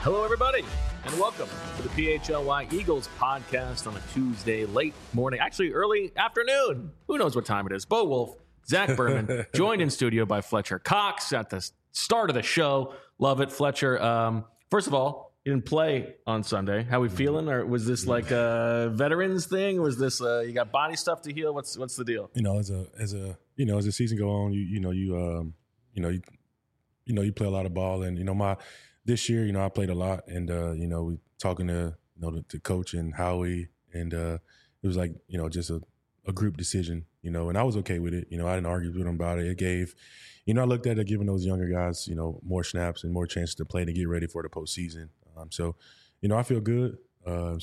Hello, everybody, and welcome to the PHLY Eagles podcast on a Tuesday late morning, actually early afternoon. Who knows what time it is? Bo Wolf, Zach Berman, joined in studio by Fletcher Cox at the start of the show. Love it, Fletcher. First of all, you didn't play on Sunday. How we feeling? Or was this like a veterans thing? Was this you got body stuff to heal? What's the deal? You know, as the season go on, you play a lot of ball, and this year, I played a lot, and we talking to to coach and Howie, and it was like just a group decision, and I was okay with it. I didn't argue with them about it. It gave, I looked at it giving those younger guys, more snaps and more chances to play to get ready for the postseason. So, I feel good. I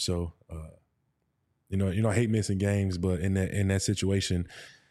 hate missing games, but in that situation,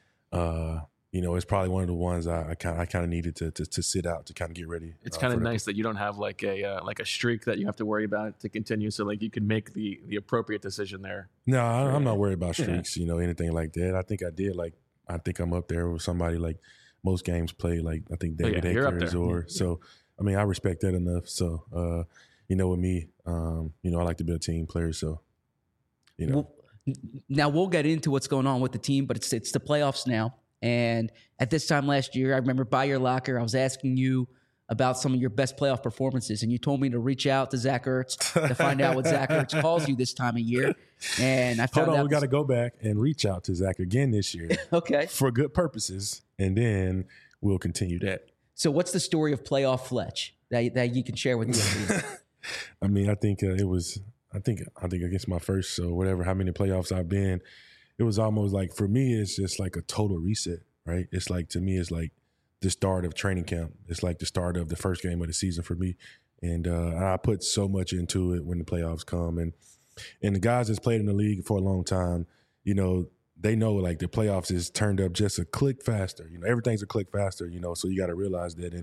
it's probably one of the ones I kind of needed to sit out to kind of get ready. It's kind of nice that you don't have like a streak that you have to worry about to continue. So like you can make the appropriate decision there. No, I'm not worried about streaks, anything like that. I think I did. I think I'm up there with somebody like most games played. Like I think David Akers so. I mean, I respect that enough. So, with me, I like to be a team player. So, Well, now we'll get into what's going on with the team, but it's the playoffs now. And at this time last year, I remember by your locker, I was asking you about some of your best playoff performances, and you told me to reach out to Zach Ertz to find out what Zach Ertz calls you this time of year. And I found out we got to go back and reach out to Zach again this year, okay, for good purposes, and then we'll continue that. So, what's the story of playoff Fletch that you can share with me? I mean, I think it was. I think against my first, so whatever, how many playoffs I've been. It was almost like, for me, it's just like a total reset, right? It's like, to me, it's like the start of training camp. It's like the start of the first game of the season for me. And I put so much into it when the playoffs come. And the guys that's played in the league for a long time, they know like the playoffs is turned up just a click faster. Everything's a click faster, so you got to realize that.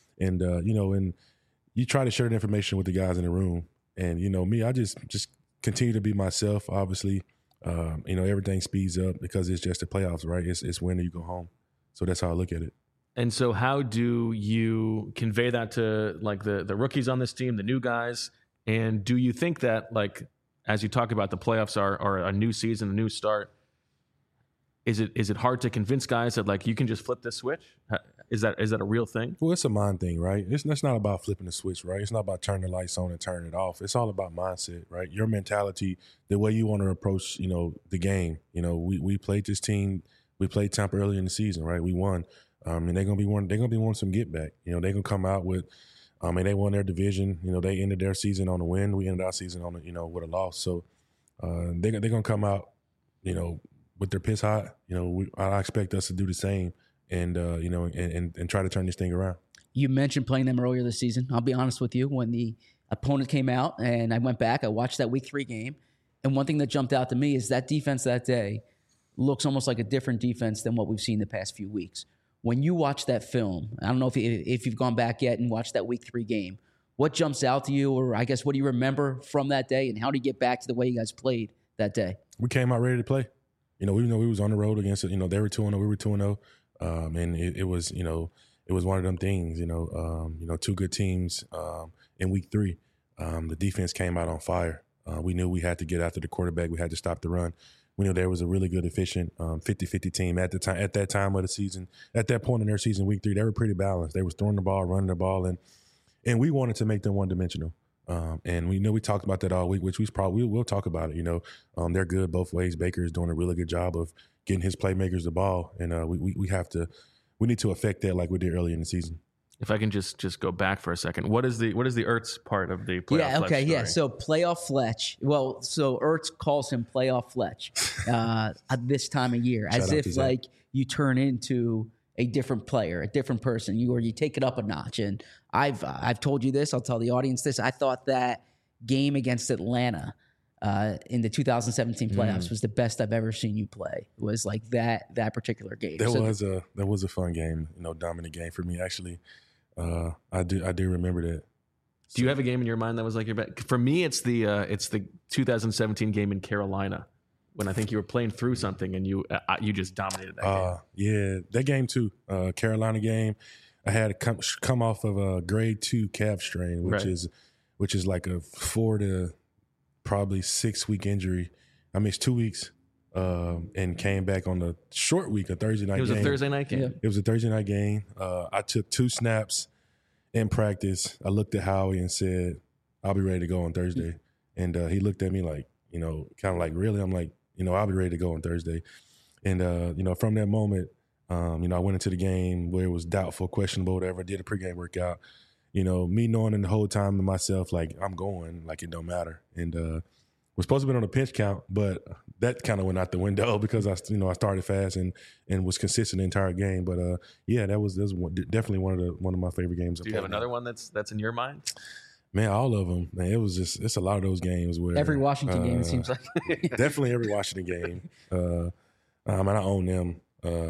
And you try to share the information with the guys in the room. And, me, I just continue to be myself, obviously. Everything speeds up because it's just the playoffs, right? It's when you go home. So that's how I look at it. And so how do you convey that to like the rookies on this team, the new guys? And do you think that, like, as you talk about the playoffs are a new season, a new start, is it hard to convince guys that like you can just flip this switch? Is that a real thing? Well, it's a mind thing, right? It's not about flipping the switch, right? It's not about turning the lights on and turning it off. It's all about mindset, right? Your mentality, the way you want to approach, the game. We played this team. We played Tampa early in the season, right? We won, and they're gonna be wanting some get back. They're gonna come out with, and they won their division. They ended their season on a win. We ended our season on with a loss. So they're gonna come out, with their piss hot. I expect us to do the same. And and try to turn this thing around. You mentioned playing them earlier this season. I'll be honest with you. When the opponent came out and I went back, I watched that Week 3 game. And one thing that jumped out to me is that defense that day looks almost like a different defense than what we've seen the past few weeks. When you watch that film, I don't know if you've gone back yet and watched that Week 3 game, what jumps out to you, or I guess what do you remember from that day, and how do you get back to the way you guys played that day? We came out ready to play. Even though we was on the road against it, they were 2-0, we were 2-0. And it was, it was one of them things, two good teams in Week 3. The defense came out on fire. We knew we had to get after the quarterback. We had to stop the run. We knew there was a really good, efficient 50-50 team at that time of the season. At that point in their season, Week 3, they were pretty balanced. They was throwing the ball, running the ball, and we wanted to make them one-dimensional. And we talked about that all week, which we'll talk about it. They're good both ways. Baker is doing a really good job of getting his playmakers the ball, and we need to affect that like we did earlier in the season. If I can just go back for a second, what is the Ertz part of the playoff? Yeah, okay, Fletch yeah. story? So playoff Fletch. Well, so Ertz calls him playoff Fletch at this time of year, as if like you turn into a different player, a different person, you take it up a notch. And I've told you this, I'll tell the audience this. I thought that game against Atlanta in the 2017 playoffs was the best I've ever seen you play. It was like that particular game. That was a fun game, dominant game for me. Actually, I do remember that. Do you have a game in your mind that was like your best? For me, it's the 2017 game in Carolina when I think you were playing through something and you just dominated that game. Yeah, that game too. Carolina game. I had come off of a grade 2 calf strain, which which is like a 4 to probably 6 week injury. I missed 2 weeks and came back on the short week, a Thursday night game. It was a Thursday night game. Yeah. It was a Thursday night game. I took 2 snaps in practice. I looked at Howie and said, I'll be ready to go on Thursday. And he looked at me like, kind of like, really? I'm like, I'll be ready to go on Thursday. And, from that moment, I went into the game where it was doubtful, questionable, whatever. Did a pregame workout. Me knowing the whole time to myself, like, I'm going, like, it don't matter. And was supposed to be on a pinch count, but that kind of went out the window because I started fast and was consistent the entire game. But that was definitely one of my favorite games. Do you have another one that's in your mind? Man, all of them. Man, it's a lot of those games where Every Washington game, it seems like. Definitely every Washington game. And I own them.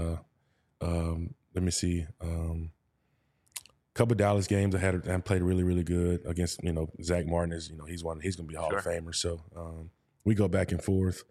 Let me see. Couple of Dallas games I played really, really good against, Zach Martin is, he's going to be a Hall of Famer. So we go back and forth.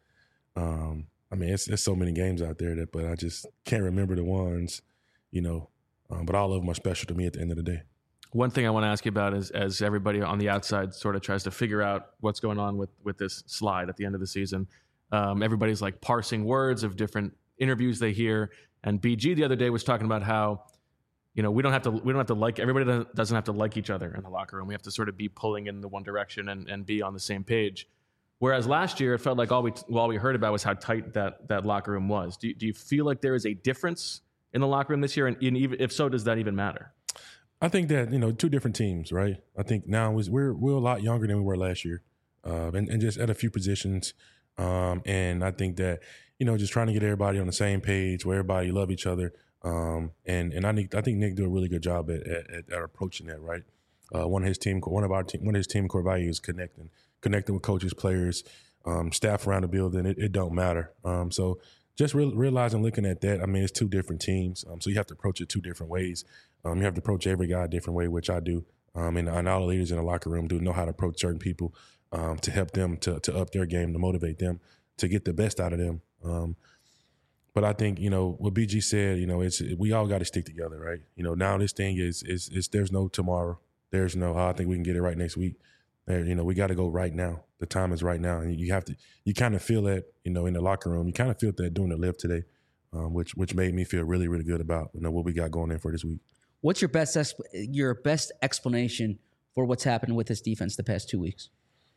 It's so many games out there but I just can't remember the ones, but all of them are special to me at the end of the day. One thing I want to ask you about is, as everybody on the outside sort of tries to figure out what's going on with this slide at the end of the season, everybody's like parsing words of different interviews they hear. And BG the other day was talking about how, we don't have to like, everybody doesn't have to like each other in the locker room. We have to sort of be pulling in the one direction and be on the same page. Whereas last year, it felt like all we heard about was how tight that locker room was. Do you feel like there is a difference in the locker room this year? And even, if so, does that even matter? I think that, 2 different teams, right? I think now we're a lot younger than we were last year, and just at a few positions. And I think that, just trying to get everybody on the same page where everybody love each other. And I think Nick do a really good job at approaching that, right? One of his team core values is connecting with coaches, players, staff around the building. It don't matter. So just realizing, looking at that, it's 2 different teams. So you have to approach it 2 different ways. You have to approach every guy a different way, which I do. And all the leaders in the locker room do know how to approach certain people to help them to up their game, to motivate them, to get the best out of them. But I think, what BG said, we all got to stick together, right? Now this thing is there's no tomorrow. There's no, I think we can get it right next week. We got to go right now. The time is right now. And you kind of feel that, in the locker room. You kind of feel that doing the lift today, which made me feel really, really good about, what we got going in for this week. What's your best explanation for what's happened with this defense the past 2 weeks?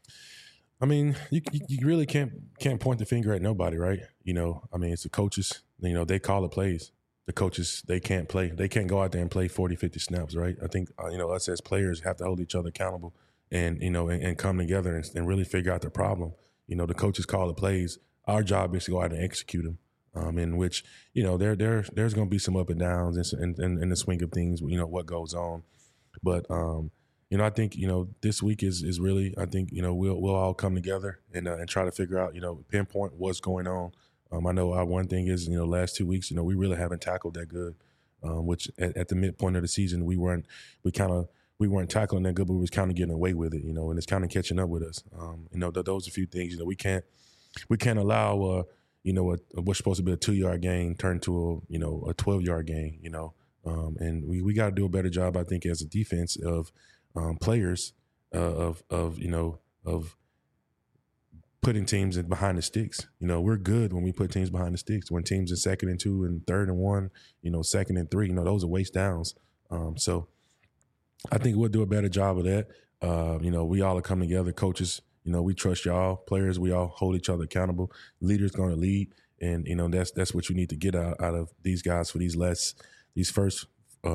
You really can't point the finger at nobody, right? It's the coaches. They call the plays. The coaches, they can't play. They can't go out there and play 40, 50 snaps, right? I think, us as players have to hold each other accountable and, and come together and really figure out the problem. The coaches call the plays. Our job is to go out and execute them. In which, there's going to be some up and downs in the swing of things, what goes on. But, I think, this week is really, I think, we'll all come together and try to figure out, pinpoint what's going on. I know our one thing is, last 2 weeks, we really haven't tackled that good, which at the midpoint of the season, we weren't tackling that good, but we was kind of getting away with it, and it's kind of catching up with us. Those are a few things, we can't allow, what's supposed to be a 2-yard gain turn to a 12-yard gain, and we got to do a better job, I think, as a defense of players of putting teams behind the sticks. We're good when we put teams behind the sticks. When teams are 2nd and 2 and 3rd and 1, 2nd and 3, those are waste downs. So I think we'll do a better job of that. We all are coming together, coaches. We trust y'all, players. We all hold each other accountable. Leaders going to lead, and that's what you need to get out of these guys for this first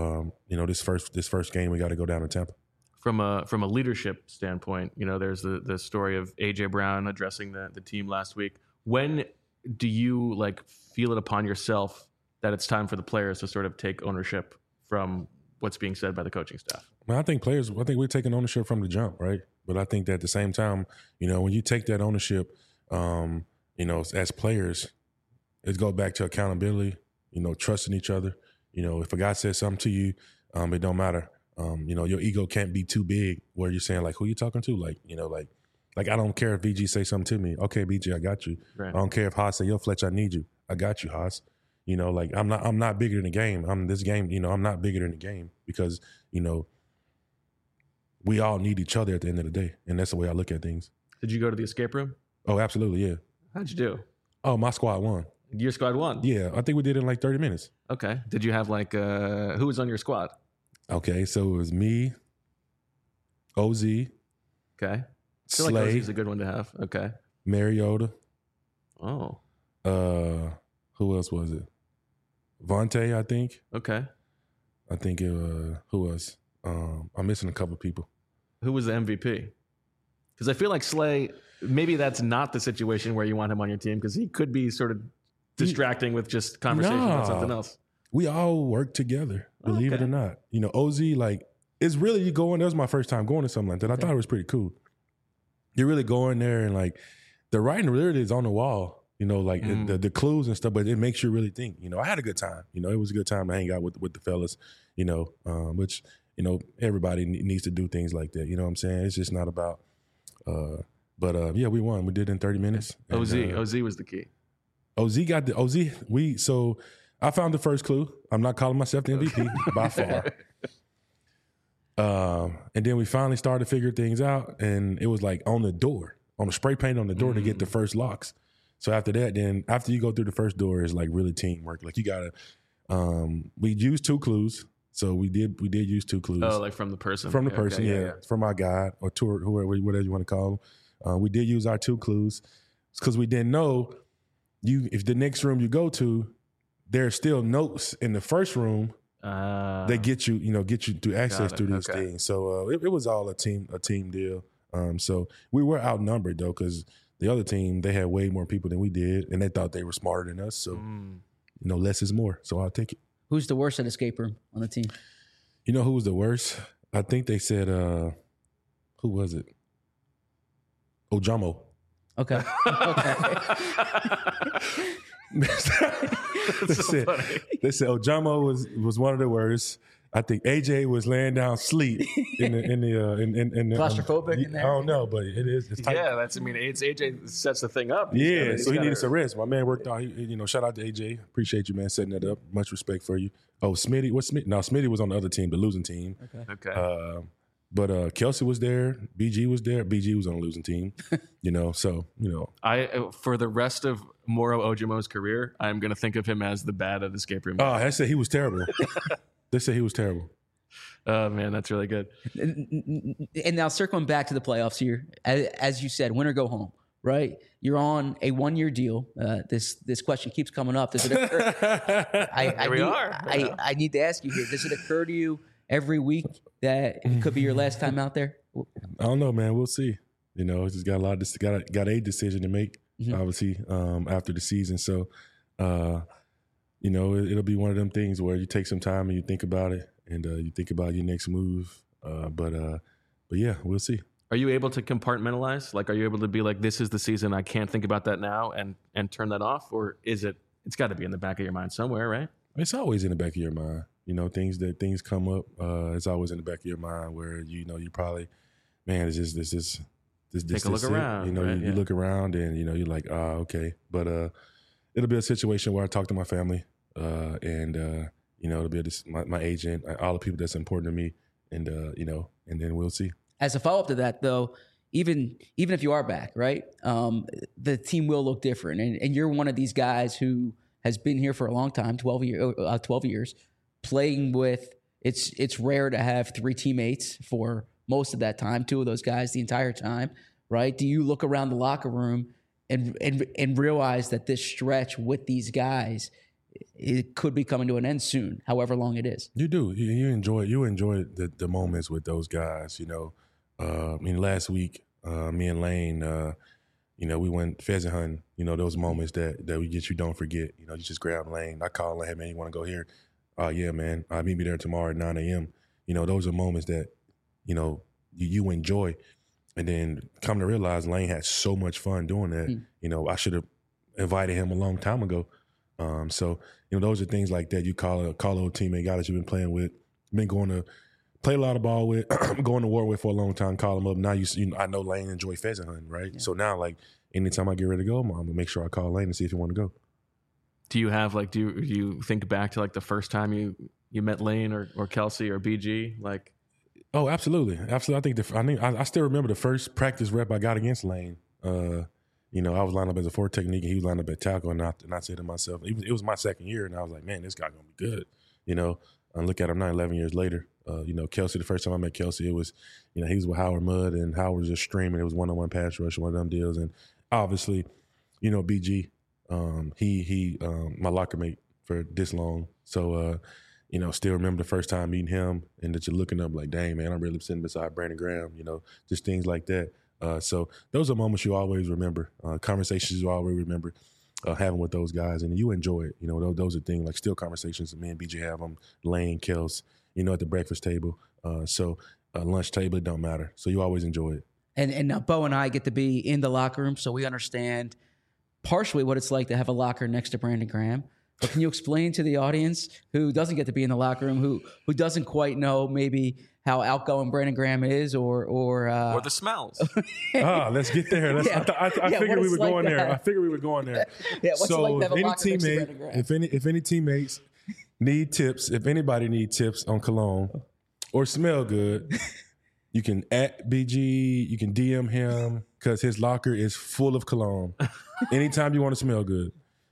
game. We got to go down to Tampa. From a leadership standpoint, there's the story of AJ Brown addressing the team last week. When do you feel it upon yourself that it's time for the players to sort of take ownership from what's being said by the coaching staff? I think we're taking ownership from the jump, right? But I think that at the same time, when you take that ownership, as players, it goes back to accountability, trusting each other. If a guy says something to you, it don't matter. Your ego can't be too big where you're saying, who you talking to? I don't care if BG say something to me. Okay, BG, I got you. Right. I don't care if Haas say, yo, Fletch, I need you. I got you, Haas. I'm not bigger than the game. I'm not bigger than the game because, we all need each other at the end of the day, and that's the way I look at things. Did you go to the escape room? Oh, absolutely, yeah. How'd you do? Oh, my squad won. Your squad won? Yeah, I think we did it in like 30 minutes. Okay. Did you have like, who was on your squad? Okay, so it was me, OZ, Okay. I feel like Slay, Ozzy's a good one to have. Okay. Mariota. Oh, Who else was it? Vontae, I think. okay. I think it who else? I'm missing a couple people. Who was the MVP? Because I feel like Slay, maybe that's not the situation where you want him on your team because he could be sort of distracting with just conversation Nah. about something else. We all work together, believe it Okay. or not. You know, OZ, like, it's really you going, that was my first time going to something like that. I thought it was pretty cool. You're really going there and like the writing really is on the wall, you know, like the clues and stuff, but it makes you really think. You know, I had a good time. You know, it was a good time to hang out with the fellas, you know, which, you know, everybody needs to do things like that. You know what I'm saying? It's just not about, yeah, we won. We did it in 30 minutes. And, OZ was the key. OZ got the OZ. So I found the first clue. I'm not calling myself the MVP by far. And then we finally started to figure things out, and it was like on the door, on the spray paint on the door to get the first locks. So after that, then after you go through the first door, it's like really teamwork. Like you gotta. We used 2 clues, so we did use 2 clues. Oh, like from the person. From the Okay, person, yeah, from our guide or tour, whoever, whatever you want to call them. We did use our 2 clues because we didn't know if the next room you go to, there's still notes in the first room that get you to access to these things. So it was all a team deal. So we were outnumbered though because the other team, they had way more people than we did, and they thought they were smarter than us. So you know, less is more. So I'll take it. Who's the worst at escape room on the team? You know who was the worst? I think they said, who was it? Ojamo. Okay. They said Ojamo was one of the worst. I think AJ was laying down asleep in the Claustrophobic in there? I don't know, but it is. It's tight. Yeah, it's AJ sets the thing up. Yeah, so he needed some rest. My man worked out. Shout out to AJ. Appreciate you, man, setting that up. Much respect for you. Oh, Smitty. What's Smitty? No, Smitty was on the other team, the losing team. Okay. But Kelsey was there. BG was there. BG was on the losing team. I for the rest of Moro Ojomo's career, I'm going to think of him as the bad at escape room. Oh, they said he was terrible. They said he was terrible. Oh, man, that's really good. And now circling back to the playoffs here, as you said, win or go home, right? You're on a 1-year deal. This question keeps coming up. Does it occur? I need to ask you here. Does it occur to you every week that it could be your last time out there? I don't know, man. We'll see. You know, it's just got a lot of got a decision to make, obviously, after the season. So, it'll be one of them things where you take some time and you think about it, and you think about your next move. But yeah, we'll see. Are you able to compartmentalize? Like, are you able to be like, this is the season, I can't think about that now, and turn that off? Or is it's got to be in the back of your mind somewhere, right? It's always in the back of your mind. You know, things come up. It's always in the back of your mind where you probably, man, it's just this. Take a look around. You know, right? you look around and you're like, okay. But it'll be a situation where I talk to my family, and it'll be my agent, all the people that's important to me, and and then we'll see. As a follow-up to that, though, even if you are back, right, the team will look different. And you're one of these guys who has been here for a long time, 12 years, playing with – it's rare to have 3 teammates for most of that time, 2 of those guys the entire time, right? Do you look around the locker room and realize that this stretch with these guys, it could be coming to an end soon, however long it is? You do. You enjoy the moments with those guys, last week, me and Lane, we went pheasant hunting. Those moments that we get, you don't forget. You just grab Lane. I call Lane, hey, man, you want to go here? Yeah, man. Meet me there tomorrow at 9 a.m. Those are moments that, you enjoy. And then come to realize Lane had so much fun doing that. I should have invited him a long time ago. So, those are things like that. You call a old teammate, guy that you've been playing with, been going to play a lot of ball with, going to war with for a long time, call him up. Now I know Lane enjoy pheasant hunting, right? Yeah. So now, like, anytime I get ready to go, I'm going to make sure I call Lane and see if he want to go. Do you have, like, do you think back to, like, the first time you met Lane or Kelsey or BG? Like, Oh, absolutely. Absolutely. I still remember the first practice rep I got against Lane. You know, I was lined up as a 4 technique and he was lined up at tackle, and I said to myself, it was my second year, and I was like, man, this guy going to be good. You know, and look at him now 11 years later. You know, Kelsey, the first time I met Kelsey, it was, you know, he was with Howard Mudd, and Howard was just streaming. It was one-on-one pass rush, one of them deals. And obviously, you know, BG, he my locker mate for this long. So, you know, still remember the first time meeting him and that you're looking up like, dang, man, I'm really sitting beside Brandon Graham, you know, just things like that. So those are moments you always remember, conversations you always remember having with those guys, and you enjoy it. You know, those are things like still conversations that me and BJ have them, Lane, Kels, you know, at the breakfast table. So lunch table, it don't matter. So you always enjoy it. And now Bo and I get to be in the locker room, so we understand partially what it's like to have a locker next to Brandon Graham. But can you explain to the audience who doesn't get to be in the locker room, who doesn't quite know maybe how outgoing Brandon Graham is, or the smells? Let's get there. I figured we were going there. I figured we were going there. Yeah, what's so it like to have a any locker next to Brandon teammate, Graham? if any teammates need tips, if anybody need tips on cologne or smell good, you can at BG, you can DM him because his locker is full of cologne. Anytime you want to smell good.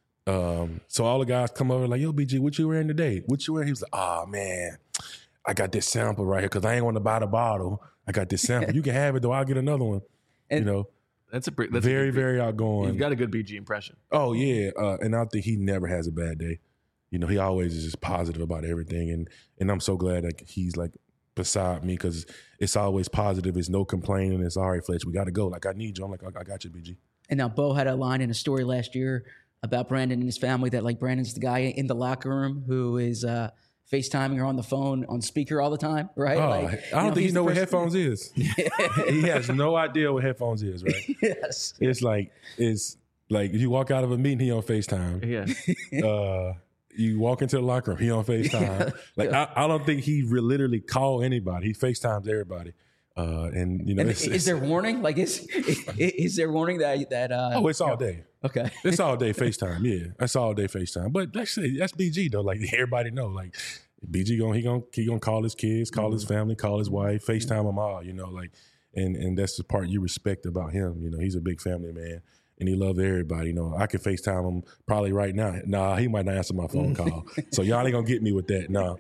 So all the guys come over like, yo, BG, what you wearing today? What you wearing? He was like, oh, man, I got this sample right here because I ain't want to buy the bottle. I got this sample. You can have it, though. I'll get another one. And you know, That's very outgoing. You've got a good BG impression. Oh, yeah. And I think he never has a bad day. You know, he always is just positive about everything. And I'm so glad that he's like beside me because it's always positive. It's no complaining. It's all right, Fletch, we got to go. Like, I need you. I'm like, I got you, BG. And now Bo had a line in a story last year about Brandon and his family that like Brandon's the guy in the locker room who is FaceTiming or on the phone on speaker all the time, right? Oh, like, I don't think he knows what headphones is. He has no idea what headphones is, right? Yes. It's like you walk out of a meeting, he on FaceTime. Yeah. You walk into the locker room, he on FaceTime. Like I don't think he literally call anybody. He FaceTimes everybody. And you know, is there warning? Like, is there warning that? Oh, it's all day. Okay, it's all day FaceTime. Yeah, that's all day FaceTime. But that's BG though. Like everybody know. Like BG he gonna call his kids, call his family, call his wife, FaceTime them all. You know, like and that's the part you respect about him. You know, he's a big family man. And he loves everybody. You know, I could FaceTime him probably right now. Nah, he might not answer my phone call. So y'all ain't gonna get me with that. Nah,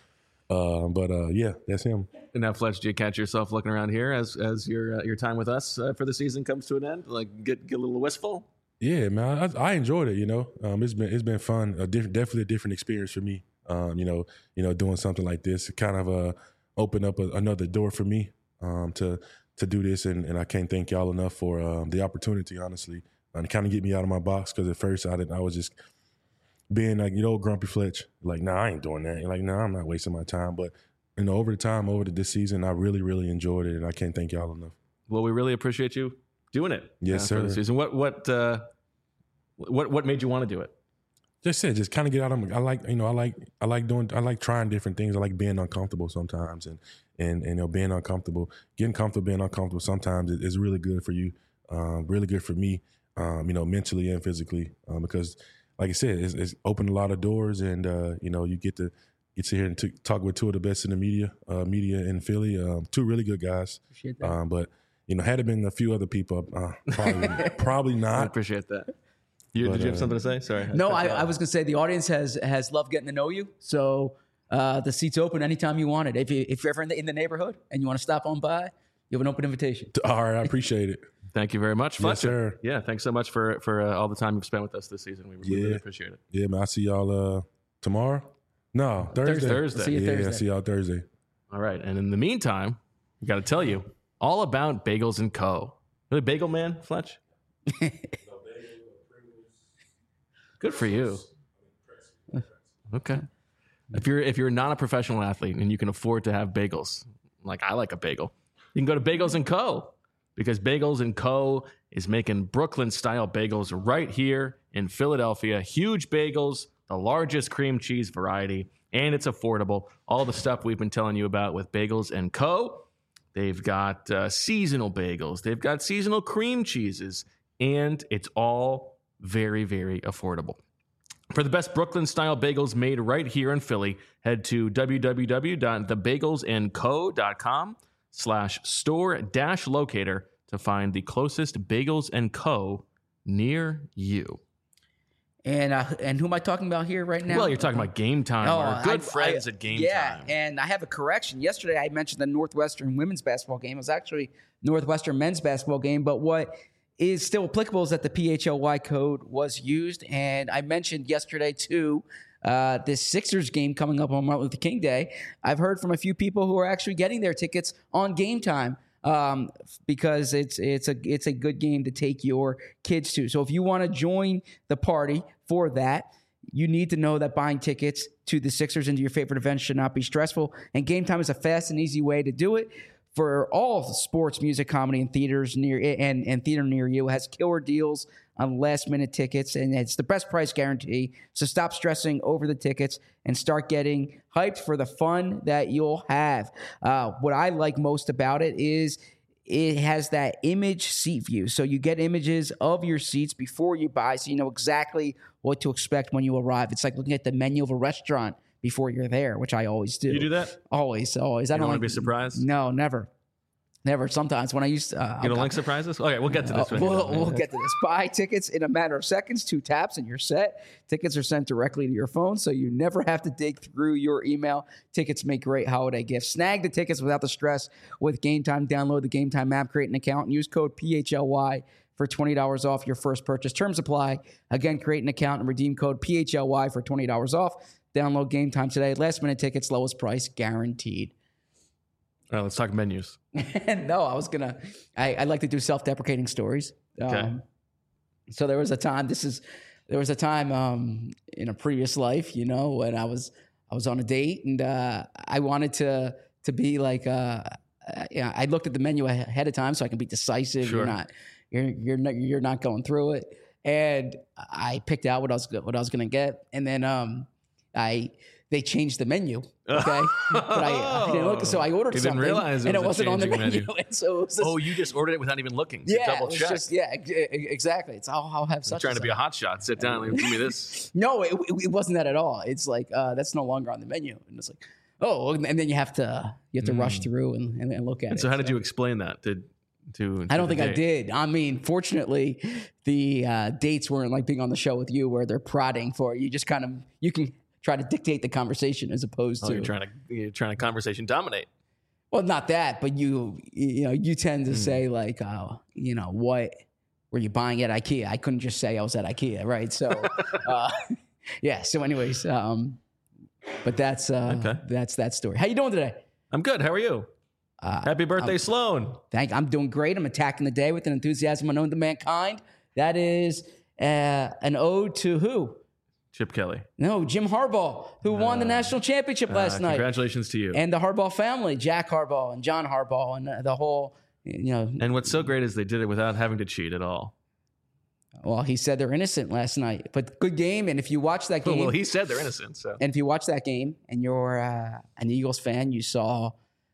But yeah, that's him. And now, Fletch, do you catch yourself looking around here as your time with us for the season comes to an end? Like get a little wistful? Yeah, man, I enjoyed it. You know, it's been fun. Definitely a different experience for me. You know, doing something like this, it kind of opened up another door for me to do this, and I can't thank y'all enough for the opportunity. Honestly, to kind of get me out of my box because at first I was just being like, you know, grumpy Fletch, like, nah, I ain't doing that. Like, nah, I'm not wasting my time. But, you know, over this season, I really, really enjoyed it, and I can't thank y'all enough. Well, we really appreciate you doing it. Yes, sir. For the season. What made you want to do it? Just kind of get out of. I like trying different things. I like being uncomfortable sometimes, and you know, getting comfortable being uncomfortable sometimes is really good for you, really good for me, you know, mentally and physically, because. Like I said, it's opened a lot of doors, and you know, you get to here and talk with two of the best in the media in Philly. Two really good guys. Appreciate that. But you know, had it been a few other people, probably not. I appreciate that. Did you have something to say? Sorry. No, I was going to say the audience has loved getting to know you. So the seat's open anytime you want it. If you're ever in the neighborhood and you want to stop on by, you have an open invitation. All right, I appreciate it. Thank you very much, Fletcher. Yes, sir. Yeah, thanks so much for all the time you've spent with us this season. We really appreciate it. Yeah, man. I see y'all tomorrow. No, Thursday. Thursday. See you Thursday. I see y'all Thursday. All right, and in the meantime, we got to tell you all about Bagels and Co. Really, bagel man, Fletch. Good for you. Okay. If you're not a professional athlete and you can afford to have bagels, like I like a bagel, you can go to Bagels and Co. Because Bagels and Co. is making Brooklyn-style bagels right here in Philadelphia. Huge bagels, the largest cream cheese variety, and it's affordable. All the stuff we've been telling you about with Bagels and Co. They've got seasonal bagels. They've got seasonal cream cheeses, and it's all very, very affordable. For the best Brooklyn-style bagels made right here in Philly, head to www.thebagelsandco.com/store-locator to find the closest Bagels & Co. near you. And who am I talking about here right now? Well, you're talking about Game Time, our good friends at Game Time. Yeah, and I have a correction. Yesterday, I mentioned the Northwestern women's basketball game. It was actually Northwestern men's basketball game, but what is still applicable is that the PHLY code was used, and I mentioned yesterday, too, this Sixers game coming up on Martin Luther King Day. I've heard from a few people who are actually getting their tickets on Game Time. Because it's a good game to take your kids to. So if you want to join the party for that, you need to know that buying tickets to the Sixers and to your favorite events should not be stressful. And Game Time is a fast and easy way to do it. For all sports, music, comedy, and theaters and theater near you, it has killer deals on last-minute tickets, and it's the best price guarantee. So stop stressing over the tickets and start getting hyped for the fun that you'll have. What I like most about it is it has that image seat view. So you get images of your seats before you buy, so you know exactly what to expect when you arrive. It's like looking at the menu of a restaurant before you're there, which I always do. You do that? Always. I don't want to be surprised? No, never. Sometimes when I used to... you don't like surprises? Okay, we'll get to this. We'll get to this. Buy tickets in a matter of seconds, 2 taps, and you're set. Tickets are sent directly to your phone, so you never have to dig through your email. Tickets make great holiday gifts. Snag the tickets without the stress with Game Time. Download the Game Time app, create an account, and use code PHLY for $20 off your first purchase. Terms apply. Again, create an account and redeem code PHLY for $20 off. Download Game Time today. Last-minute tickets, lowest price, guaranteed. All right, let's talk menus. No, I like to do self-deprecating stories. Okay. So there was a time in a previous life, when I was on a date and I wanted to be like, I looked at the menu ahead of time so I can be decisive. Sure. You're not going through it. And I picked out what I was going to get. And then they changed the menu. Okay, but I didn't look, so I ordered something, realize and it wasn't on the menu. And so it was you just ordered it without even looking. Yeah, double check. Exactly. It's I'll have such. I'm trying to be a hot shot. Sit down and give me this. No, it wasn't that at all. It's like that's no longer on the menu, and it's like and then you have to rush through and look at it. So how did you explain that? I don't think I did. I mean, fortunately, the dates weren't like being on the show with you where they're prodding for it. You just you can try to dictate the conversation as opposed to you're trying to conversation dominate. Well, not that, but you tend to say like, what were you buying at IKEA? I couldn't just say I was at IKEA, right? So, yeah. So, anyways, but that's that story. How you doing today? I'm good. How are you? Happy birthday, Sloan. I'm doing great. I'm attacking the day with an enthusiasm unknown to mankind. That is an ode to who? Chip Kelly. No, Jim Harbaugh, who won the national championship last night. Congratulations to you. And the Harbaugh family, Jack Harbaugh and John Harbaugh and the whole, And what's so great is they did it without having to cheat at all. Well, he said they're innocent last night, but good game. And if you watch that game. Well, he said they're innocent. So. And if you watch that game and you're an Eagles fan, you saw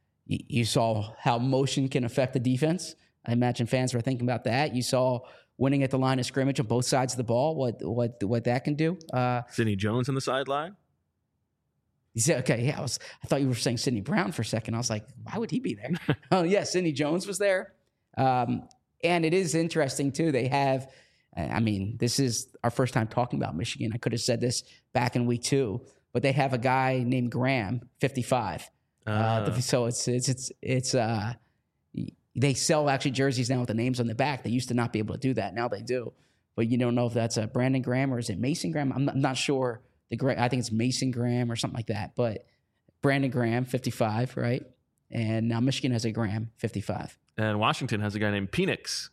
how motion can affect the defense. I imagine fans were thinking about that. You saw winning at the line of scrimmage on both sides of the ball, what that can do. Sidney Jones on the sideline? He said, okay, yeah, I thought you were saying Sidney Brown for a second. I was like, why would he be there? Oh, yeah, Sidney Jones was there. And it is interesting, too. They have, this is our first time talking about Michigan. I could have said this back in week 2, but they have a guy named Graham, 55. So it's they sell actually jerseys now with the names on the back. They used to not be able to do that. Now they do. But you don't know if that's a Brandon Graham or is it Mason Graham? I'm not sure. I think it's Mason Graham or something like that. But Brandon Graham, 55, right? And now Michigan has a Graham, 55. And Washington has a guy named Penix.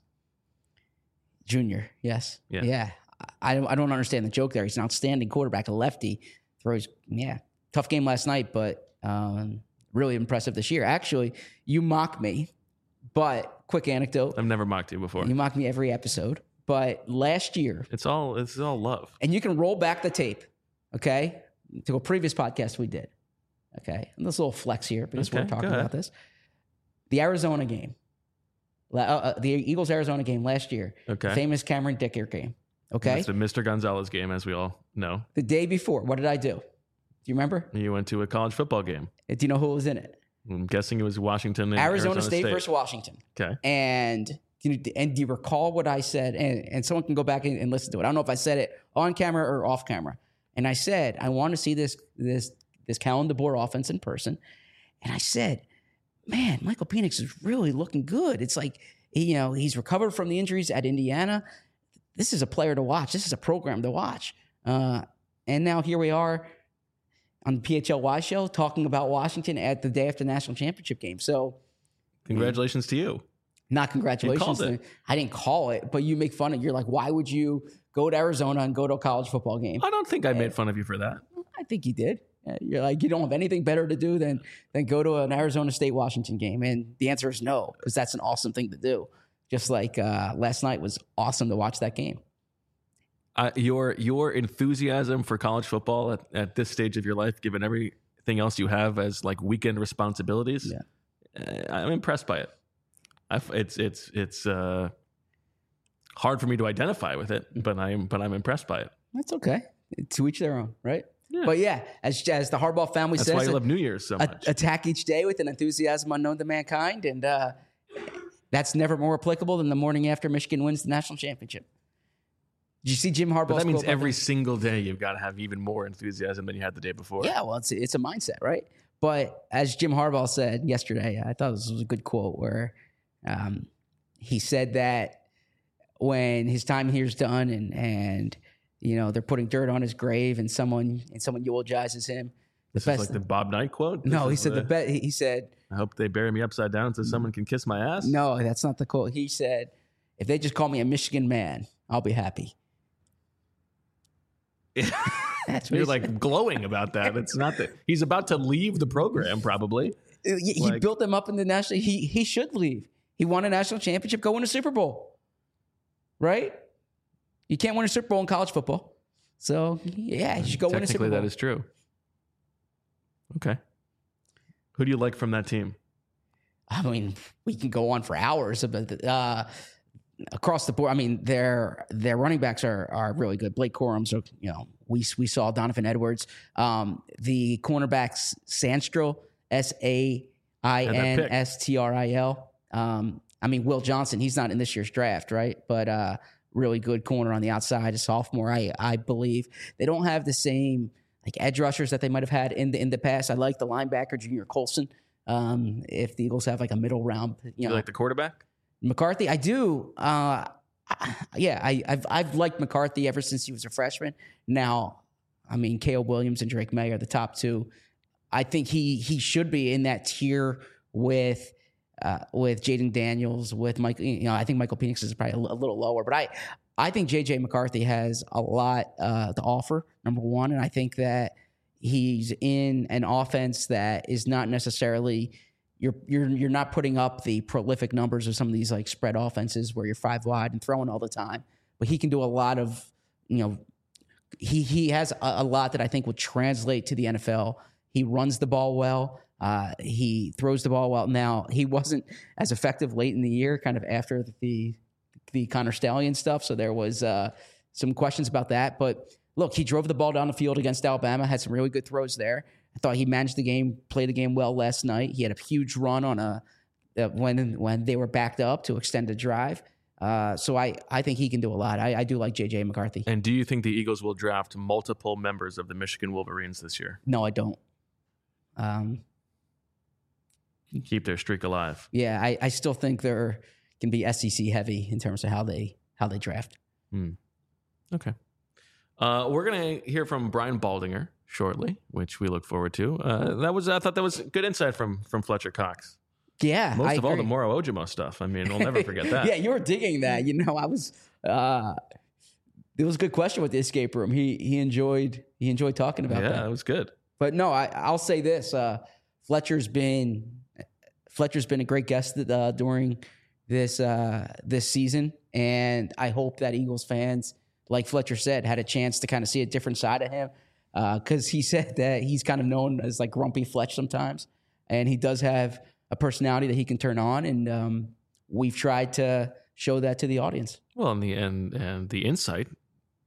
Junior, yes. Yeah. I don't understand the joke there. He's an outstanding quarterback, a lefty. Throws, tough game last night, but really impressive this year. Actually, you mock me. But quick anecdote. I've never mocked you before. You mock me every episode. But last year. It's all love. And you can roll back the tape, okay, to a previous podcast we did. Okay. And this little flex here because we're talking about this. The Arizona game. The Eagles-Arizona game last year. Okay. Famous Cameron Dicker game. Okay. It's the Mr. Gonzalez game, as we all know. The day before, what did I do? Do you remember? You went to a college football game. Do you know who was in it? I'm guessing it was Washington and Arizona State versus Washington. Okay. And do you recall what I said? And someone can go back and listen to it. I don't know if I said it on camera or off camera. And I said, I want to see this Kalen DeBoer offense in person. And I said, man, Michael Penix is really looking good. It's like, he's recovered from the injuries at Indiana. This is a player to watch. This is a program to watch. And now here we are on the PHLY show talking about Washington at the day after the national championship game. So congratulations to you. Not congratulations. You called it. I didn't call it, but you make fun of it. You're like, why would you go to Arizona and go to a college football game? I don't think I made fun of you for that. I think you did. You're like, you don't have anything better to do than go to an Arizona State Washington game. And the answer is no, because that's an awesome thing to do. Just like last night was awesome to watch that game. Your enthusiasm for college football at this stage of your life, given everything else you have as like weekend responsibilities, I'm impressed by it. It's hard for me to identify with it, but I'm impressed by it. That's okay. To each their own, right? Yeah. But yeah, as the Harbaugh family says, that's why you love New Year's so much. Attack each day with an enthusiasm unknown to mankind, and that's never more applicable than the morning after Michigan wins the national championship. Did you see Jim Harbaugh's But that means quote about every single day you've got to have even more enthusiasm than you had the day before. Yeah, well, it's a mindset, right? But as Jim Harbaugh said yesterday, I thought this was a good quote where he said that when his time here is done and they're putting dirt on his grave and someone eulogizes him. This is like the Bob Knight quote? No, he said he said, I hope they bury me upside down so someone can kiss my ass. No, that's not the quote. He said, if they just call me a Michigan man, I'll be happy. You're like glowing about that. It's not that he's about to leave the program, probably. He built them up in the national. He should leave. He won a national championship. Go win a Super Bowl, right? You can't win a Super Bowl in college football, so yeah, you should go win a Super Bowl. Technically, that is true. Okay, who do you like from that team? I mean, we can go on for hours about across the board. I mean, their running backs are really good. Blake Corum, so we saw Donovan Edwards. The cornerbacks Sanstril, Sainstril. I mean, Will Johnson, he's not in this year's draft, right? But really good corner on the outside, a sophomore, I believe. They don't have the same like edge rushers that they might have had in the past. I like the linebacker Junior Colson. If the Eagles have like a middle round, you like the quarterback? McCarthy, I do. I've liked McCarthy ever since he was a freshman. Now, I mean, Caleb Williams and Drake May are the top two. I think he should be in that tier with Jaden Daniels, with Mike. I think Michael Penix is probably a little lower, but I think JJ McCarthy has a lot to offer. Number one, and I think that he's in an offense that is not necessarily. You're not putting up the prolific numbers of some of these like spread offenses where you're 5 wide and throwing all the time, but he can do a lot of, he has a lot that I think would translate to the NFL. He runs the ball well. He throws the ball well. Now, he wasn't as effective late in the year, kind of after the Connor Stallion stuff. So there was some questions about that, but look, he drove the ball down the field against Alabama, had some really good throws there. I thought he managed the game, played the game well last night. He had a huge run on when they were backed up to extend the drive. So I think he can do a lot. I do like J.J. McCarthy. And do you think the Eagles will draft multiple members of the Michigan Wolverines this year? No, I don't. Keep their streak alive. Yeah, I still think they're can be SEC heavy in terms of how they draft. Okay. We're going to hear from Brian Baldinger shortly, which we look forward to. I thought that was good insight from Fletcher Cox. Yeah, most of all the Moro Ojimo stuff. I mean, we'll never forget that. Yeah, you were digging that. I was. It was a good question with the escape room. He enjoyed talking about that. Yeah, it was good. But no, I'll say this: Fletcher's been a great guest during this season, and I hope that Eagles fans, like Fletcher said, had a chance to kind of see a different side of him. Because he said that he's kind of known as like Grumpy Fletch sometimes, and he does have a personality that he can turn on, and we've tried to show that to the audience. Well, and the insight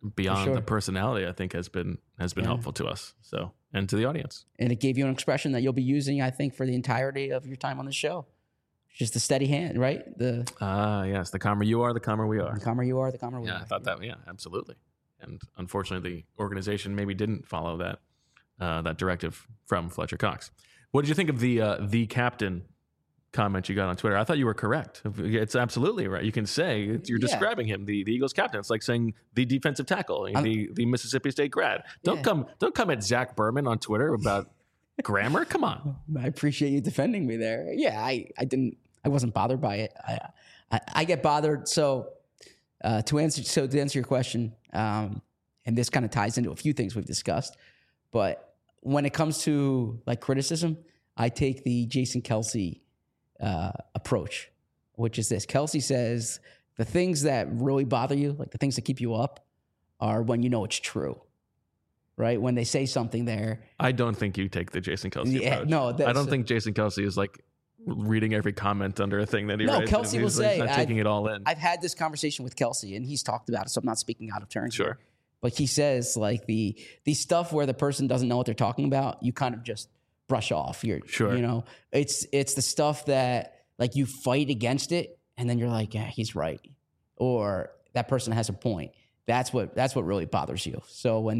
beyond sure. the personality, I think has been helpful to us. So, and to the audience. And it gave you an expression that you'll be using, I think, for the entirety of your time on the show. Just the steady hand, right? Yes, the calmer you are, the calmer we are. The calmer you are, the calmer we are. I thought that. Yeah, absolutely. And unfortunately, the organization maybe didn't follow that directive from Fletcher Cox. What did you think of the captain comment you got on Twitter? I thought you were correct. It's absolutely right. You can say you're describing him, the Eagles captain. It's like saying the defensive tackle, the Mississippi State grad. Don't come at Zach Berman on Twitter about grammar. Come on. I appreciate you defending me there. Yeah, I wasn't bothered by it. I get bothered. So to answer your question, and this kind of ties into a few things we've discussed, but when it comes to like criticism, I take the Jason Kelce approach, which is this. Kelce says the things that really bother you, like the things that keep you up, are when you know it's true, right? When they say something there. I don't think you take the Jason Kelce approach. No, I don't think Jason Kelce is like reading every comment under a thing that he writes. No, Kelce will say, he's not taking it all in. I've had this conversation with Kelce, and he's talked about it, so I'm not speaking out of turn. Sure. Here. But he says, like, the stuff where the person doesn't know what they're talking about, you kind of just brush off. Sure. You know, it's the stuff that, like, you fight against it, and then you're like, yeah, he's right. Or that person has a point. That's what really bothers you. So when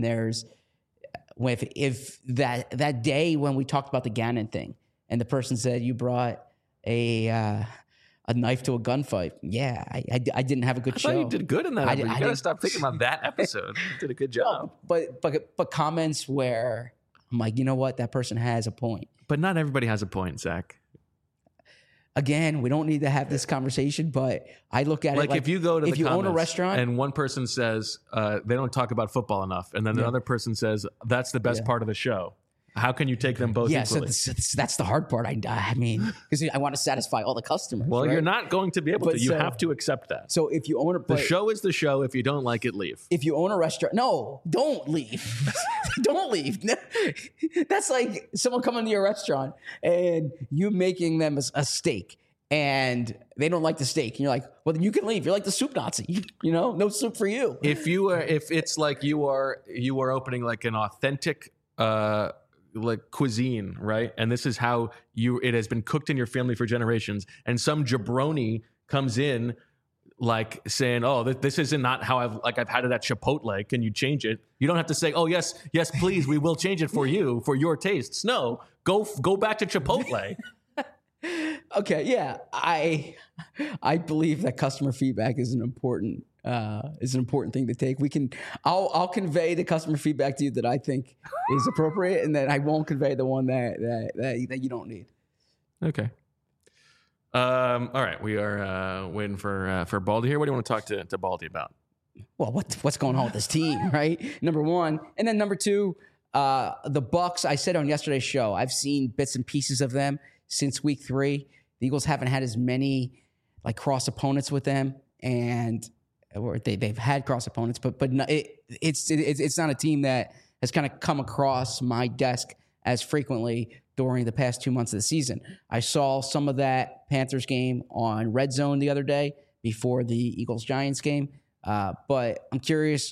if that day when we talked about the Gannon thing, and the person said you brought a knife to a gunfight. Yeah, I didn't have a good show. You did good in that. You got to stop thinking about that episode. You did a good job. But comments where I'm like, you know what, that person has a point. But not everybody has a point, Zach. Again, we don't need to have this conversation, but I look at it like if you go to if you own a restaurant and one person says they don't talk about football enough, and then another person says that's the best part of the show. How can you take them both equally? So that's the hard part. I mean, because I want to satisfy all the customers. Well, right? You're not going to be able to. You have to accept that. So if you own the show is the show. If you don't like it, leave. If you own a restaurant, no, don't leave. Don't leave. That's like someone coming to your restaurant and you making them a steak, and they don't like the steak, and you're like, well, then you can leave. You're like the soup Nazi. You know, no soup for you. If it's like you are opening like an authentic like cuisine, right? And this is how it has been cooked in your family for generations. And some jabroni comes in like saying, oh, this isn't not how I've had it at Chipotle. Can you change it? You don't have to say, oh, yes, please. We will change it for you, for your tastes. No, go back to Chipotle. Okay. Yeah. I believe that customer feedback is an important thing to take. I'll convey the customer feedback to you that I think is appropriate, and then I won't convey the one that you don't need. Okay. All right. We are waiting for Baldy here. What do you want to talk to Baldy about? Well, what's going on with this team, right? Number one, and then number two, the Bucs. I said on yesterday's show, I've seen bits and pieces of them since week 3. The Eagles haven't had as many like cross opponents with them, or they've had cross opponents, but it's not a team that has kind of come across my desk as frequently during the past 2 months of the season. I saw some of that Panthers game on Red Zone the other day before the Eagles-Giants game, but I'm curious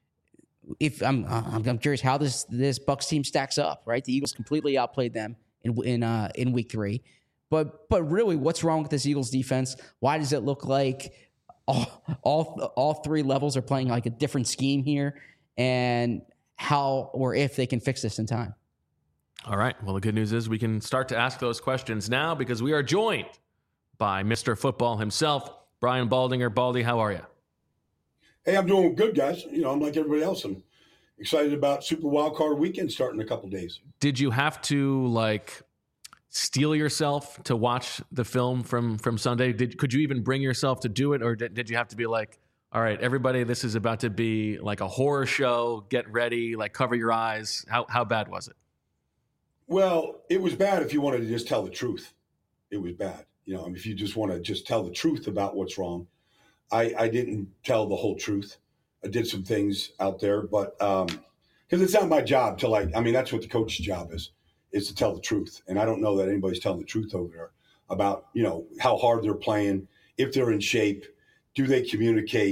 I'm curious how this Bucs team stacks up. Right, the Eagles completely outplayed them in week 3, but really, what's wrong with this Eagles defense? Why does it look like all 3 levels are playing like a different scheme here, and how or if they can fix this in time? All right. Well, the good news is we can start to ask those questions now because we are joined by Mr. Football himself, Brian Baldinger. Baldy, how are you? Hey, I'm doing good, guys. You know, I'm like everybody else. I'm excited about Super Wildcard Weekend starting in a couple days. Did you have to steel yourself to watch the film from Sunday? Could you even bring yourself to do it, or did you have to be like, all right, everybody, this is about to be like a horror show. Get ready, cover your eyes. How bad was it? Well, it was bad if you wanted to just tell the truth. It was bad. You know, if you just want to just tell the truth about what's wrong. I didn't tell the whole truth. I did some things out there, but because it's not my job to that's what the coach's job is to tell the truth. And I don't know that anybody's telling the truth over there about, how hard they're playing, if they're in shape, do they communicate,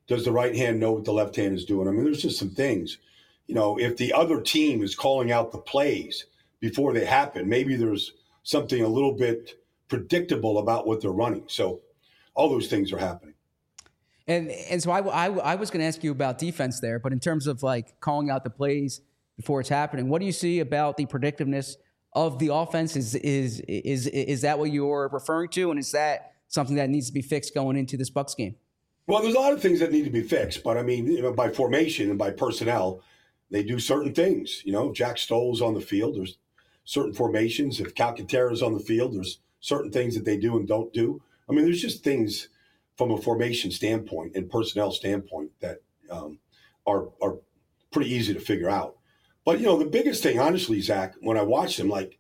Does the right hand know what the left hand is doing? I mean, there's just some things. If the other team is calling out the plays before they happen, maybe there's something a little bit predictable about what they're running. So all those things are happening. And so I was going to ask you about defense there, but in terms of like calling out the plays before it's happening, what do you see about the predictiveness of the offense? Is that what you're referring to, and is that something that needs to be fixed going into this Bucs game? Well, there's a lot of things that need to be fixed, but I mean, by formation and by personnel, they do certain things. Jack Stoll's on the field. There's certain formations. If Calcaterra's on the field, there's certain things that they do and don't do. I mean, there's just things from a formation standpoint and personnel standpoint that are pretty easy to figure out. But, the biggest thing, honestly, Zach, when I watched him, like,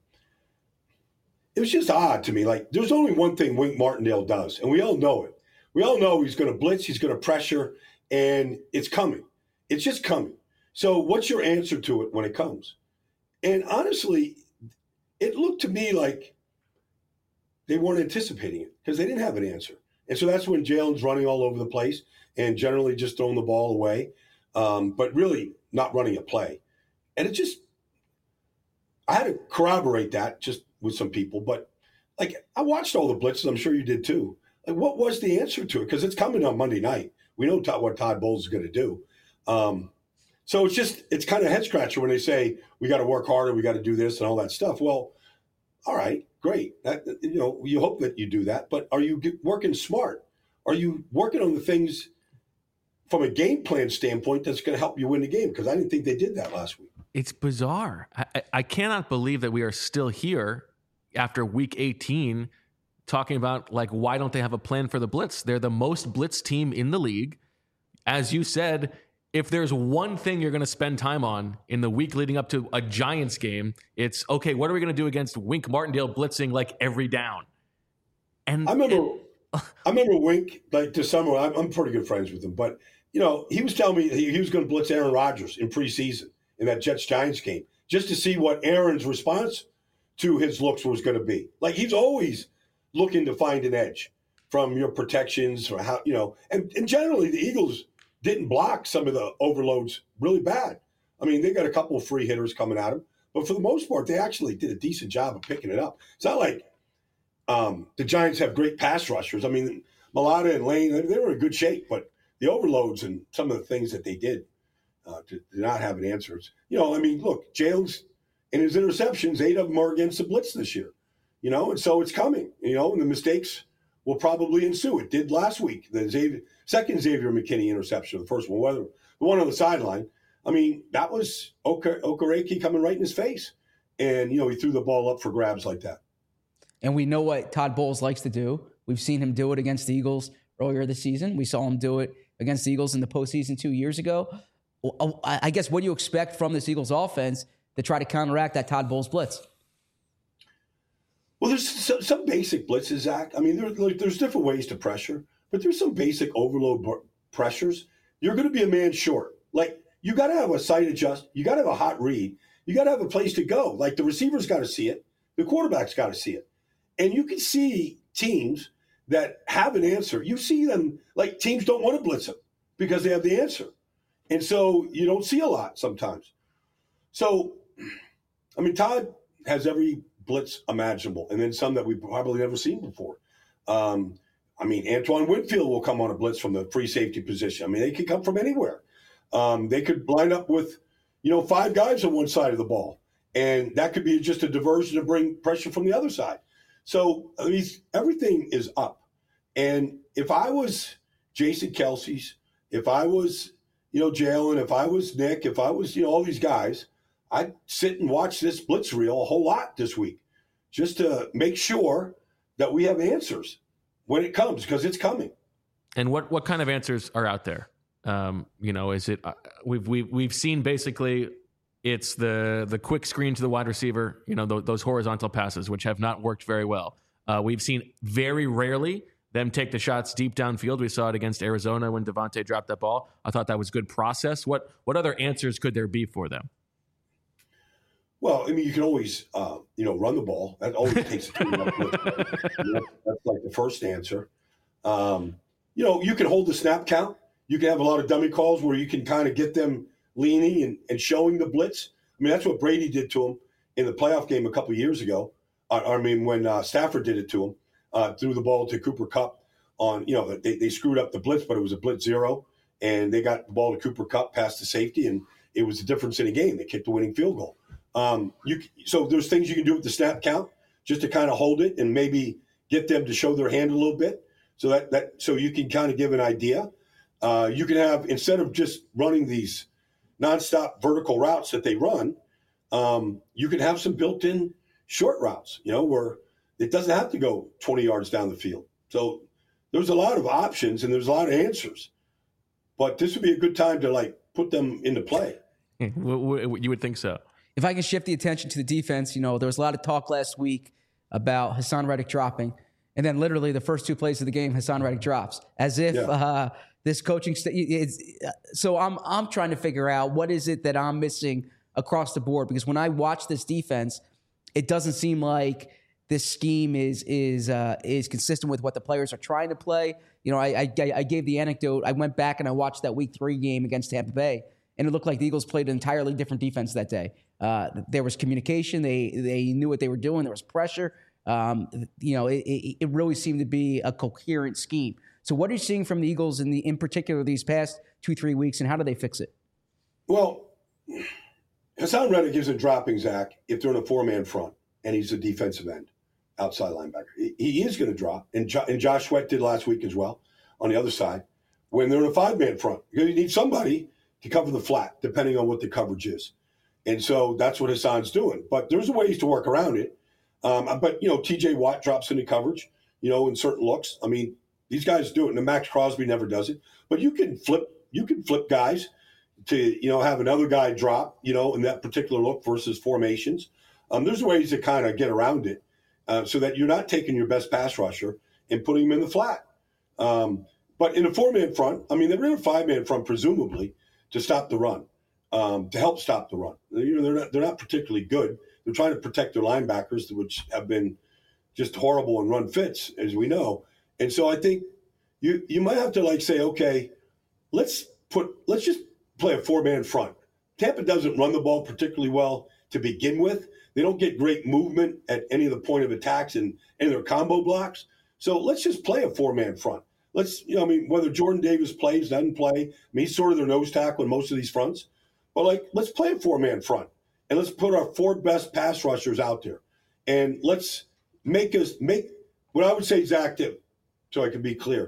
it was just odd to me. Like, there's only one thing Wink Martindale does, and we all know it. We all know he's going to blitz, he's going to pressure, and it's coming. It's just coming. So what's your answer to it when it comes? And honestly, it looked to me like they weren't anticipating it because they didn't have an answer. And so that's when Jalen's running all over the place and generally just throwing the ball away, but really not running a play. And I had to corroborate that just with some people. But, like, I watched all the blitzes. I'm sure you did too. Like, what was the answer to it? Because it's coming on Monday night. We know what Todd Bowles is going to do. So it's kind of head scratcher when they say we got to work harder, we got to do this and all that stuff. Well, all right, great. You hope that you do that, but are you working smart? Are you working on the things from a game plan standpoint that's going to help you win the game? Because I didn't think they did that last week. It's bizarre. I cannot believe that we are still here after week 18 talking about, like, why don't they have a plan for the blitz? They're the most blitz team in the league. As you said, if there's one thing you're going to spend time on in the week leading up to a Giants game, it's, okay, what are we going to do against Wink Martindale blitzing like every down? And I remember Wink, like, this summer, I'm pretty good friends with him, but, he was telling me he was going to blitz Aaron Rodgers in preseason in that Jets-Giants game just to see what Aaron's response to his looks was going to be. Like, he's always looking to find an edge from your protections or how, and generally the Eagles didn't block some of the overloads really bad. I mean, they got a couple of free hitters coming at them, but for the most part, they actually did a decent job of picking it up. It's not like the Giants have great pass rushers. I mean, Mailata and Lane, they were in good shape, but the overloads and some of the things that they did to not have an answer. I mean, look, Jalen's and his interceptions, 8 of them are against the blitz this year, and so it's coming, and the mistakes will probably ensue. It did last week. The second Xavier McKinney interception, the first one, the one on the sideline. I mean, that was Okereke coming right in his face. And, he threw the ball up for grabs like that. And we know what Todd Bowles likes to do. We've seen him do it against the Eagles earlier this season. We saw him do it against the Eagles in the postseason 2 years ago. I guess, what do you expect from this Eagles offense to try to counteract that Todd Bowles blitz? Well, there's some basic blitzes, Zach. I mean, there's different ways to pressure, but there's some basic overload pressures. You're going to be a man short. Like, you got to have a sight adjust. You got to have a hot read. You got to have a place to go. Like, the receiver's got to see it. The quarterback's got to see it. And you can see teams that have an answer. You see them, like, teams don't want to blitz them because they have the answer. And so you don't see a lot sometimes. So, I mean, Todd has every blitz imaginable, and then some that we've probably never seen before. I mean, Antoine Winfield will come on a blitz from the free safety position. I mean, they could come from anywhere. They could line up with, 5 guys on one side of the ball, and that could be just a diversion to bring pressure from the other side. So, I mean, everything is up. And if I was Jason Kelce's, if I was, Jalen, if I was Nick, if I was, all these guys, I'd sit and watch this blitz reel a whole lot this week just to make sure that we have answers when it comes, because it's coming. And what kind of answers are out there? Is it we've seen basically it's the quick screen to the wide receiver, those horizontal passes, which have not worked very well. We've seen very rarely them take the shots deep downfield. We saw it against Arizona when Devontae dropped that ball. I thought that was good process. What other answers could there be for them? Well, I mean, you can always, run the ball. That always takes a team up. That's like the first answer. You can hold the snap count. You can have a lot of dummy calls where you can kind of get them leaning and showing the blitz. I mean, that's what Brady did to him in the playoff game a couple of years ago. When Stafford did it to him, threw the ball to Cooper Kupp on, they screwed up the blitz, but it was a blitz zero, and they got the ball to Cooper Kupp past the safety, and it was the difference in a game. They kicked the winning field goal. So there's things you can do with the snap count just to kind of hold it and maybe get them to show their hand a little bit, so you can kind of give an idea. You can have, instead of just running these nonstop vertical routes that they run, you can have some built-in short routes, where it doesn't have to go 20 yards down the field. So there's a lot of options and there's a lot of answers. But this would be a good time to put them into play. You would think so. If I can shift the attention to the defense, there was a lot of talk last week about Hassan Reddick dropping. And then literally the first two plays of the game, Hassan Reddick drops. As if this coaching so I'm trying to figure out what is it that I'm missing across the board, because when I watch this defense, it doesn't seem like this scheme is consistent with what the players are trying to play. I gave the anecdote. I went back and I watched that Week 3 game against Tampa Bay, and it looked like the Eagles played an entirely different defense that day. There was communication. They knew what they were doing. There was pressure. It really seemed to be a coherent scheme. So what are you seeing from the Eagles in particular these past 2-3 weeks, and how do they fix it? Well, Hassan Reddick isn't dropping, Zach, if they're in a 4-man front and he's a defensive end, outside linebacker. He is going to drop, and Josh Sweat did last week as well on the other side, when they're in a 5-man front. You need somebody to cover the flat, depending on what the coverage is. And so that's what Hassan's doing. But there's ways to work around it. But TJ Watt drops into coverage, in certain looks. I mean, these guys do it, and Max Crosby never does it. But you can flip guys to, have another guy drop, in that particular look versus formations. There's ways to kind of get around it so that you're not taking your best pass rusher and putting him in the flat. But in a 4-man front, they're in a 5-man front, presumably, to stop the run, to help stop the run. They're not particularly good. They're trying to protect their linebackers, which have been just horrible in run fits, as we know. And so I think you might have to say, okay, let's just play a 4-man front. Tampa doesn't run the ball particularly well to begin with. They don't get great movement at any of the point of attacks and their combo blocks. So let's just play a 4-man front. Let's, whether Jordan Davis plays, doesn't play, he's sort of their nose tackle in most of these fronts. But let's play a 4-man front, and let's put our 4 best pass rushers out there, and let's make what I would say, Zach, so I can be clear,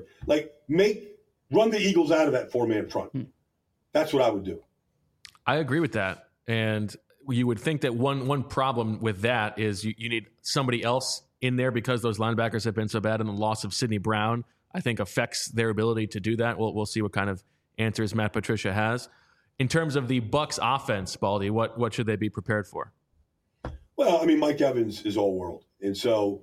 run the Eagles out of that 4-man front. That's what I would do. I agree with that. And you would think that one problem with that is you need somebody else in there, because those linebackers have been so bad, and the loss of Sidney Brown, I think, affects their ability to do that. We'll see what kind of answers Matt Patricia has. In terms of the Bucs offense, Baldy, what should they be prepared for? Well, Mike Evans is all world. And so,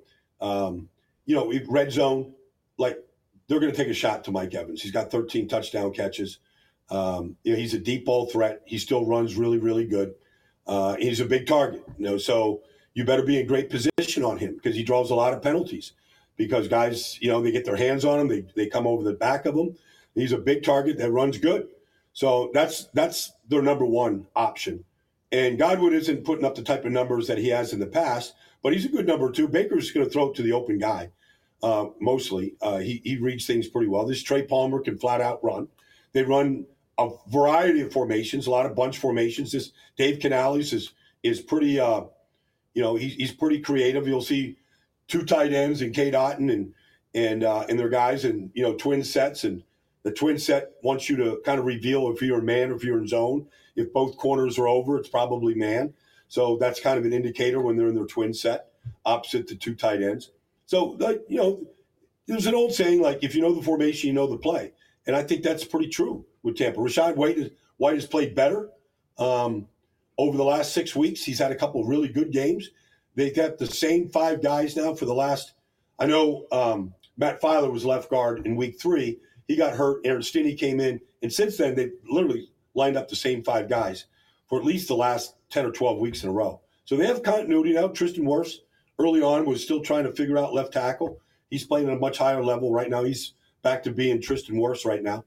red zone, they're going to take a shot to Mike Evans. He's got 13 touchdown catches. He's a deep ball threat. He still runs really, really good. He's a big target, so you better be in great position on him, because he draws a lot of penalties, because guys, they get their hands on him. They come over the back of him. He's a big target that runs good. So that's their number one option. And Godwin isn't putting up the type of numbers that he has in the past, but he's a good number 2. Baker's going to throw it to the open guy mostly. He reads things pretty well. This Trey Palmer can flat out run. They run a variety of formations, a lot of bunch formations. This Dave Canales is pretty, he's pretty creative. You'll see 2 tight ends and Cade Otton and their guys, and twin sets, and the twin set wants you to kind of reveal if you're man or if you're in zone. If both corners are over, it's probably man. So that's kind of an indicator when they're in their twin set, opposite the 2 tight ends. So, there's an old saying, if you know the formation, you know the play. And I think that's pretty true with Tampa. Rachaad White has played better over the last 6 weeks. He's had a couple of really good games. They've got the same 5 guys now for the last – I know Matt Filer was left guard in week 3. He got hurt. Aaron Stinney came in. And since then, they've literally lined up the same 5 guys for at least the last 10 or 12 weeks in a row. So they have continuity now. Tristan Wirfs early on was still trying to figure out left tackle. He's playing at a much higher level right now. He's back to being Tristan Wirfs right now.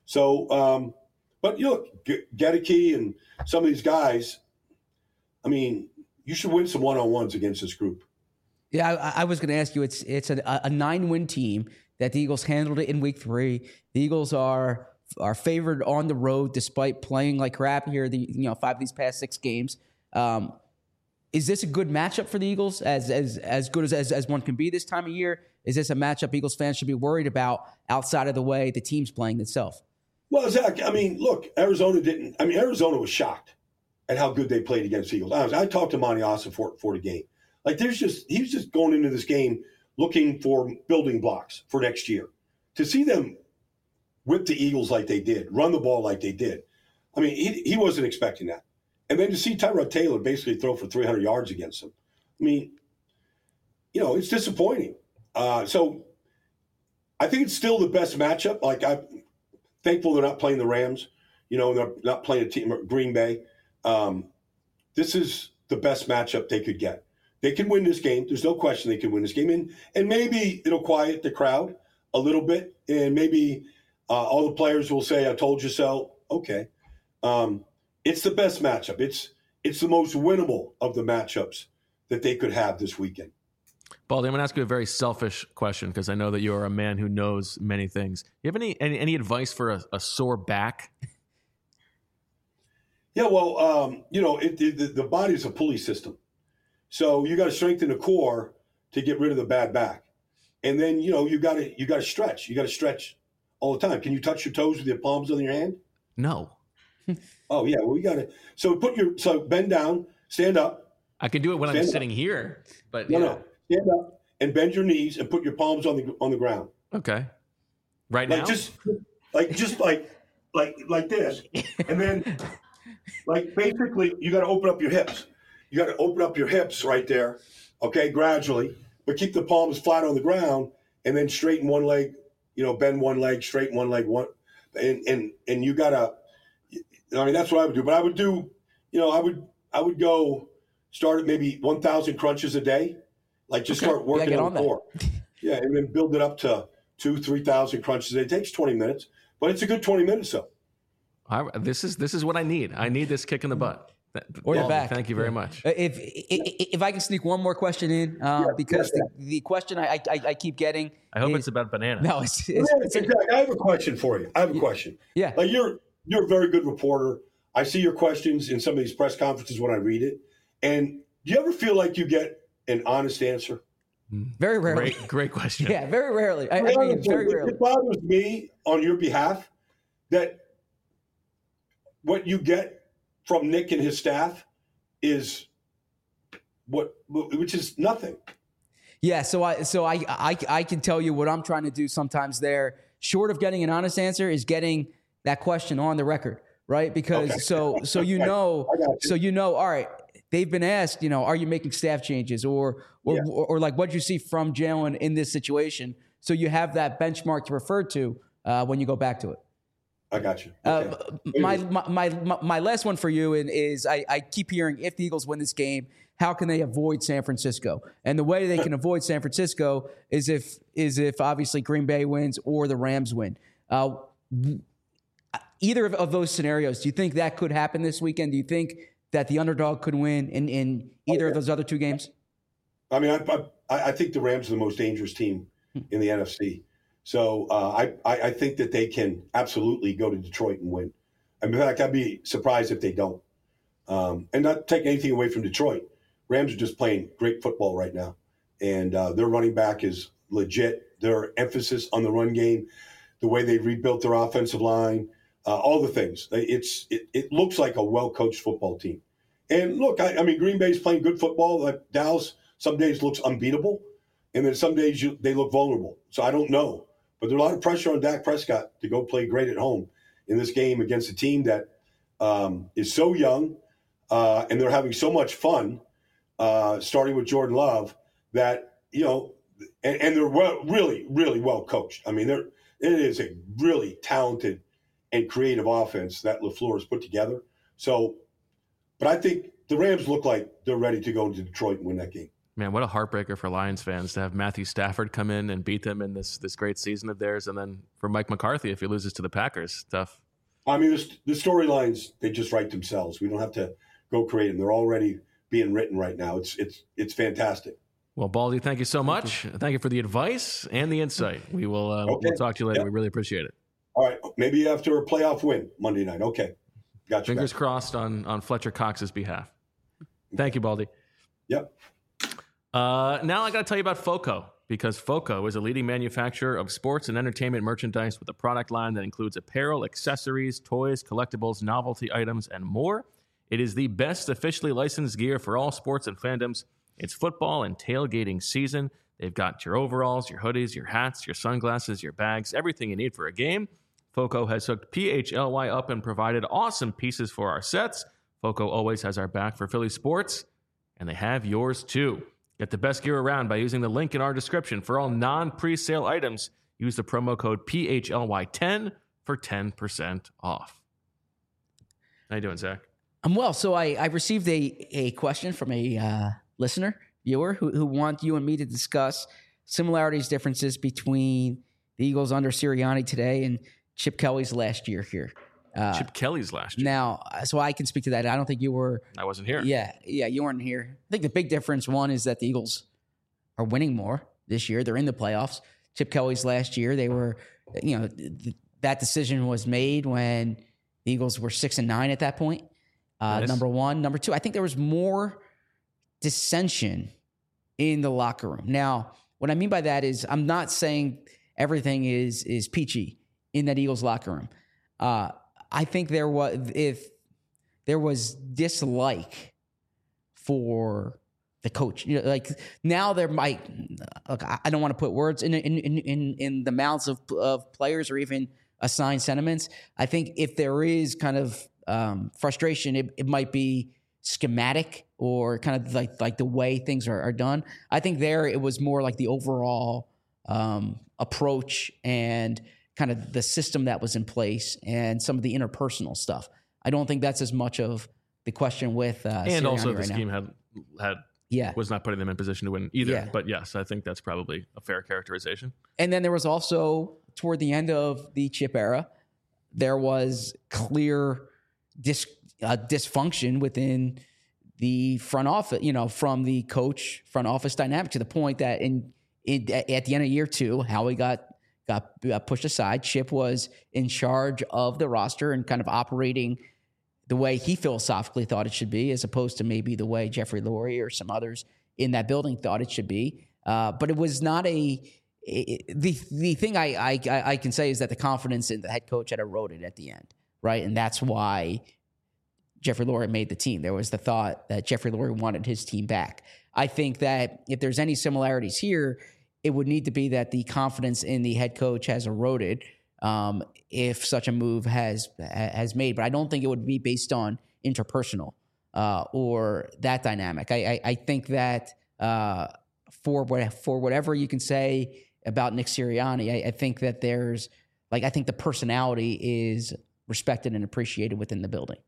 So, but you look, Gedeke and some of these guys, I mean, you should win some one-on-ones against this group. Yeah, I was going to ask you. It's a 9-win team that the Eagles handled it in week 3. The Eagles are favored on the road despite playing like crap here. 5 of these past 6 games. Is this a good matchup for the Eagles? As good as one can be this time of year? Is this a matchup Eagles fans should be worried about outside of the way the team's playing itself? Well, Zach, I mean, look, Arizona was shocked at how good they played against the Eagles. I talked to Monty Austin for the game. Like, he was just going into this game looking for building blocks for next year. To see them whip the Eagles like they did, run the ball like they did, I mean, he wasn't expecting that. And then to see Tyrod Taylor basically throw for 300 yards against them, I mean, it's disappointing. So I think it's still the best matchup. Like, I'm thankful they're not playing the Rams. They're not playing a team, Green Bay. This is the best matchup they could get. They can win this game. There's no question they can win this game. And maybe it'll quiet the crowd a little bit. And maybe all the players will say, I told you so. Okay. It's the best matchup. It's the most winnable of the matchups that they could have this weekend. Baldy, I'm going to ask you a very selfish question because I know that you are a man who knows many things. Do you have any advice for a sore back? Yeah, well, the body's a pulley system. So you got to strengthen the core to get rid of the bad back. And then, you got to stretch. You got to stretch all the time. Can you touch your toes with your palms on your hand? No. Oh, yeah. Well, we got to. So bend down, stand up. I can do it when I'm sitting here, but no. Stand up and bend your knees and put your palms on the ground. Okay. Right now? Just like this. And then basically you got to open up your hips. You got to open up your hips right there, okay, gradually, but keep the palms flat on the ground and then straighten one leg, bend one leg, straighten one leg, and you got to, that's what I would do. But I would do, I would go start at maybe 1,000 crunches a day, start working on the core. Yeah, and then build it up to 2,000-3,000 crunches a day. It takes 20 minutes, but it's a good 20 minutes though. This is what I need. I need this kick in the butt. Or your back. Thank you very much. If I can sneak one more question in, because the question I keep getting. I hope it's about banana. No, I have a question for you. I have a question. Yeah. You're a very good reporter. I see your questions in some of these press conferences when I read it. And do you ever feel like you get an honest answer? Very rarely. Great question. Yeah, very rarely. I mean, very rarely. It bothers me on your behalf that what you get from Nick and his staff is which is nothing. Yeah, so I can tell you what I'm trying to do sometimes there, short of getting an honest answer, is getting that question on the record, right? Because okay. so all right, they've been asked, are you making staff changes or like what'd you see from Jalen in this situation? So you have that benchmark to refer to when you go back to it. I got you. Okay. My last one for you is I keep hearing if the Eagles win this game, how can they avoid San Francisco? And the way they can avoid San Francisco is if obviously Green Bay wins or the Rams win. Either of those scenarios, do you think that could happen this weekend? Do you think that the underdog could win in either of those other two games? I mean, I think the Rams are the most dangerous team in the NFC. So I think that they can absolutely go to Detroit and win. In fact, I'd be surprised if they don't. And not taking anything away from Detroit. Rams are just playing great football right now. And their running back is legit. Their emphasis on the run game, the way they rebuilt their offensive line, all the things. It looks like a well-coached football team. And look, I mean, Green Bay's playing good football. Like Dallas some days looks unbeatable, and then some days they look vulnerable. So I don't know. But there's a lot of pressure on Dak Prescott to go play great at home in this game against a team that is so young and they're having so much fun, starting with Jordan Love, that, and they're really, really well coached. I mean, it is a really talented and creative offense that LaFleur has put together. So, but I think the Rams look like they're ready to go to Detroit and win that game. Man, what a heartbreaker for Lions fans to have Matthew Stafford come in and beat them in this great season of theirs. And then for Mike McCarthy, if he loses to the Packers, tough. I mean, the storylines, they just write themselves. We don't have to go create them. They're already being written right now. It's fantastic. Well, Baldy, thank you so much. Thank you for the advice and the insight. We'll talk to you later. Yep. We really appreciate it. All right. Maybe after a playoff win Monday night. Okay. Got you. Fingers crossed on Fletcher Cox's behalf. Thank you, Baldy. Yep. Now I got to tell you about FOCO, because FOCO is a leading manufacturer of sports and entertainment merchandise with a product line that includes apparel, accessories, toys, collectibles, novelty items, and more. It is the best officially licensed gear for all sports and fandoms. It's football and tailgating season. They've got your overalls, your hoodies, your hats, your sunglasses, your bags, everything you need for a game. FOCO has hooked PHLY up and provided awesome pieces for our sets. FOCO always has our back for Philly sports, and they have yours too. Get the best gear around by using the link in our description. For all non-presale items, use the promo code PHLY10 for 10% off. How you doing, Zach? I'm well. So I received a question from a listener, viewer, who want you and me to discuss similarities, differences between the Eagles under Sirianni today and Chip Kelly's last year here. Chip Kelly's last year. Now, so I can speak to that. I don't think you were. I wasn't here. Yeah, you weren't here. I think the big difference, one, is that the Eagles are winning more this year. They're in the playoffs. Chip Kelly's last year, they were, that decision was made when the Eagles were 6-9 at that point. Nice. Number one. Number two, I think there was more dissension in the locker room. Now, what I mean by that is I'm not saying everything is peachy in that Eagles locker room. I think there was dislike for the coach. Like now there might, look, I don't want to put words in the mouths of players or even assign sentiments. I think if there is kind of frustration, it might be schematic or kind of like the way things are done. I think there it was more like the overall approach and kind of the system that was in place and some of the interpersonal stuff. I don't think that's as much of the question with and Sirianni also the right scheme now. had was not putting them in position to win either. Yeah. But yes, I think that's probably a fair characterization. And then there was also toward the end of the Chip era, there was clear dysfunction within the front office, from the coach front office dynamic, to the point that at the end of year two, Howie got pushed aside. Chip was in charge of the roster and kind of operating the way he philosophically thought it should be, as opposed to maybe the way Jeffrey Lurie or some others in that building thought it should be. But it was not the thing I can say is that the confidence in the head coach had eroded at the end, right? And that's why Jeffrey Lurie made the team. There was the thought that Jeffrey Lurie wanted his team back. I think that if there's any similarities here, it would need to be that the confidence in the head coach has eroded if such a move has made. But I don't think it would be based on interpersonal or that dynamic. I think that for whatever you can say about Nick Sirianni, I think that there's I think the personality is respected and appreciated within the building.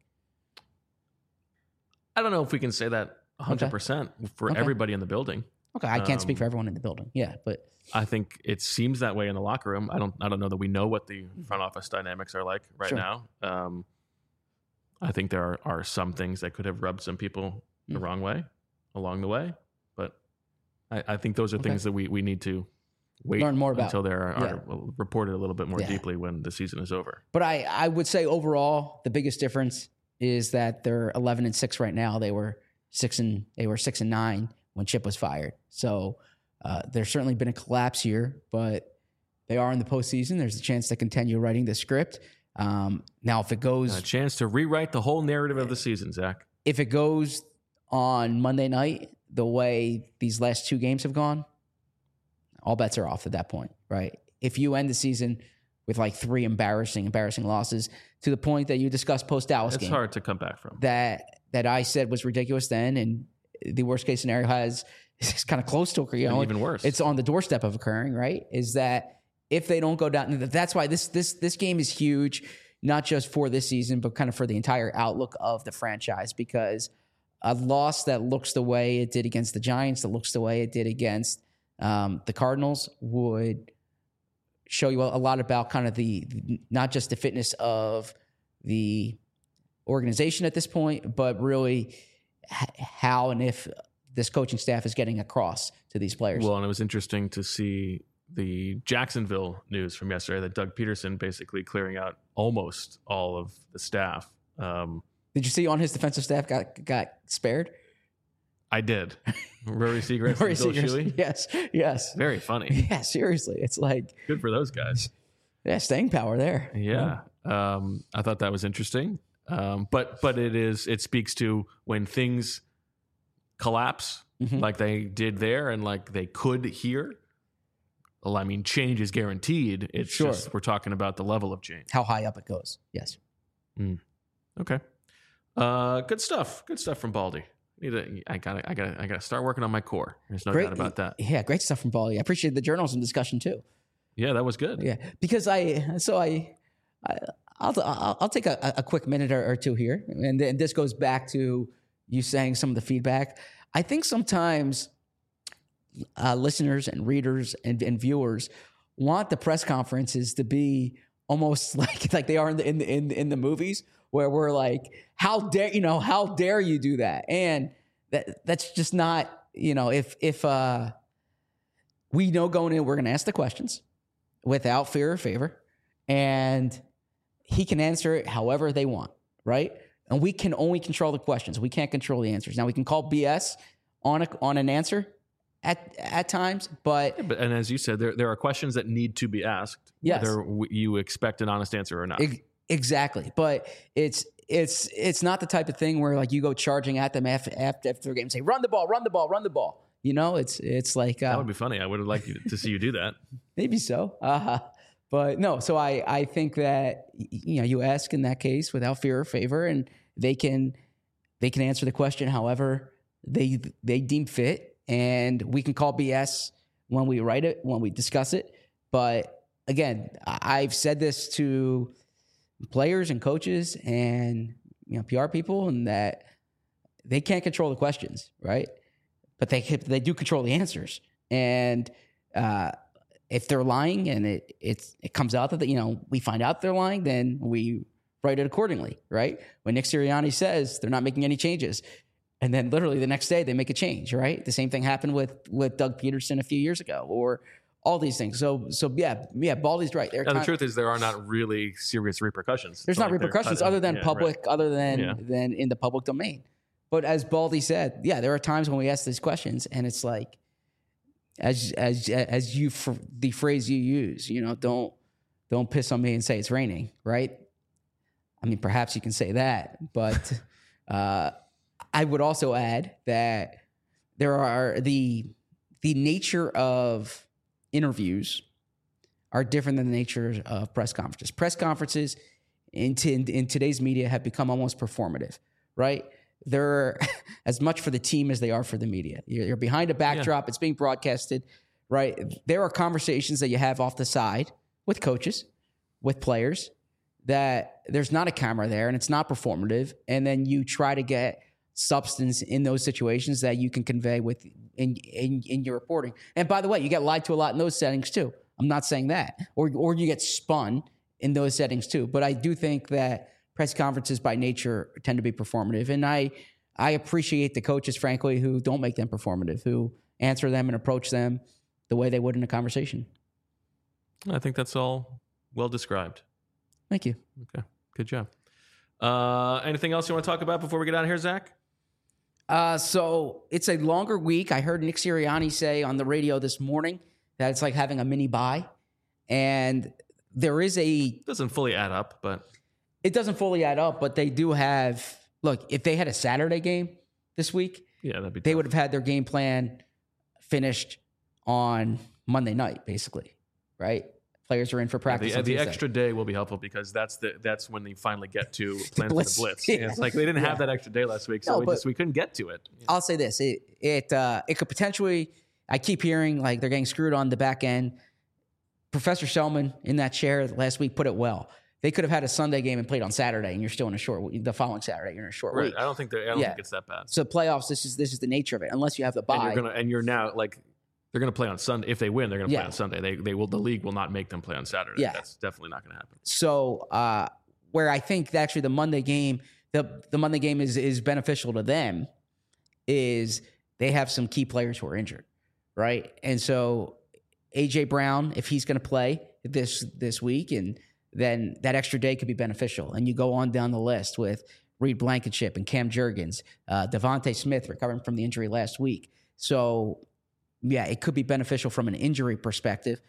I don't know if we can say that 100% for everybody in the building. Okay, I can't speak for everyone in the building. Yeah, but I think it seems that way in the locker room. I don't know that we know what the front office dynamics are like right now. I think there are some things that could have rubbed some people the wrong way along the way, but I think those are things that we need to wait learn more about until they are reported a little bit more deeply when the season is over. But I would say overall the biggest difference is that they're 11-6 right now. They were 6-9 when Chip was fired. So there's certainly been a collapse here, but they are in the postseason. There's a chance to continue writing the script. Now, if it goes... A chance to rewrite the whole narrative of the season, Zach. If it goes on Monday night the way these last two games have gone, all bets are off at that point, right? If you end the season with 3 embarrassing losses to the point that you discussed post-Dallas game. It's hard to come back from. That I said was ridiculous then, and the worst case scenario is kind of close to occurring. Even worse. It's on the doorstep of occurring, right? Is that if they don't go down, that's why this game is huge, not just for this season, but kind of for the entire outlook of the franchise, because a loss that looks the way it did against the Giants, that looks the way it did against the Cardinals, would show you a lot about kind of the not just the fitness of the organization at this point, but really how and if this coaching staff is getting across to these players. Well, and it was interesting to see the Jacksonville news from yesterday that Doug Peterson basically clearing out almost all of the staff. Did you see on his defensive staff got spared? I did. Rory Seacrest and Bill Shuey. Yes. Very funny. Yeah, seriously. It's like... Good for those guys. Yeah, staying power there. Yeah. I thought that was interesting. But it speaks to when things collapse like they did there and like they could here. Well, I mean, change is guaranteed. It's just we're talking about the level of change. How high up it goes. Yes. Okay. Good stuff. Good stuff from Baldy. I gotta start working on my core. There's no doubt about that. Yeah, great stuff from Baldy. I appreciate the journalism discussion too. Yeah, that was good. Yeah, because I'll take a quick minute or two here, and this goes back to you saying some of the feedback. I think sometimes listeners and readers and viewers want the press conferences to be almost like they are in the movies, where we're like, how dare you do that? And that's just not, if we know going in, we're going to ask the questions without fear or favor, and he can answer it however they want, right? And we can only control the questions. We can't control the answers. Now, we can call BS on an answer at times, but and as you said, there are questions that need to be asked, whether you expect an honest answer or not. Exactly, but it's not the type of thing where like you go charging at them after their game and say, run the ball. It's like that would be funny. I would have liked to see you do that. Maybe so. But no, so I think that, you ask in that case without fear or favor, and they can answer the question however they deem fit, and we can call BS when we write it, when we discuss it. But again, I've said this to players and coaches and PR people, and that they can't control the questions, right? But they do control the answers, and if they're lying and it comes out that we find out they're lying, then we write it accordingly, right? When Nick Sirianni says they're not making any changes, and then literally the next day they make a change, right? The same thing happened with Doug Peterson a few years ago, or all these things. So yeah, Baldy's right. The truth is there are not really serious repercussions. There's not repercussions other than than in the public domain. But as Baldy said, there are times when we ask these questions, and it's like, as you the phrase you use, don't piss on me and say it's raining, right? I mean, perhaps you can say that, but I would also add that there are the nature of interviews are different than the nature of press conferences. Press conferences in today's media have become almost performative, right? They're as much for the team as they are for the media. You're behind a backdrop. It's being broadcasted, right? There are conversations that you have off the side with coaches, with players, that there's not a camera there and it's not performative. And then you try to get substance in those situations that you can convey in your reporting. And by the way, you get lied to a lot in those settings too. I'm not saying that. Or you get spun in those settings too. But I do think that press conferences by nature tend to be performative. And I appreciate the coaches, frankly, who don't make them performative, who answer them and approach them the way they would in a conversation. I think that's all well described. Thank you. Okay, good job. Anything else you want to talk about before we get out of here, Zach? So it's a longer week. I heard Nick Sirianni say on the radio this morning that it's like having a mini bye. And there is doesn't fully add up, but... It doesn't fully add up, but they do have... Look, if they had a Saturday game this week, they would have had their game plan finished on Monday night, basically, right? Players are in for practice. The extra day will be helpful because that's when they finally get to plan for the blitz. Yeah. It's like they didn't have that extra day last week, so we couldn't get to it. I'll say this: it could potentially. I keep hearing like they're getting screwed on the back end. Professor Shellman in that chair last week put it well. They could have had a Sunday game and played on Saturday, and you're still in a short week. The following Saturday, you're in a short week. I don't think think it's that bad. So playoffs, this is the nature of it. Unless you have the bye, you're now like they're going to play on Sunday. If they win, they're going to play on Sunday. The league will not make them play on Saturday. Yeah. That's definitely not going to happen. So where I think that actually the Monday game, the Monday game is beneficial to them, is they have some key players who are injured, right? And so AJ Brown, if he's going to play this week, and then that extra day could be beneficial. And you go on down the list with Reed Blankenship and Cam Jurgens, Devontae Smith recovering from the injury last week. So, yeah, it could be beneficial from an injury perspective.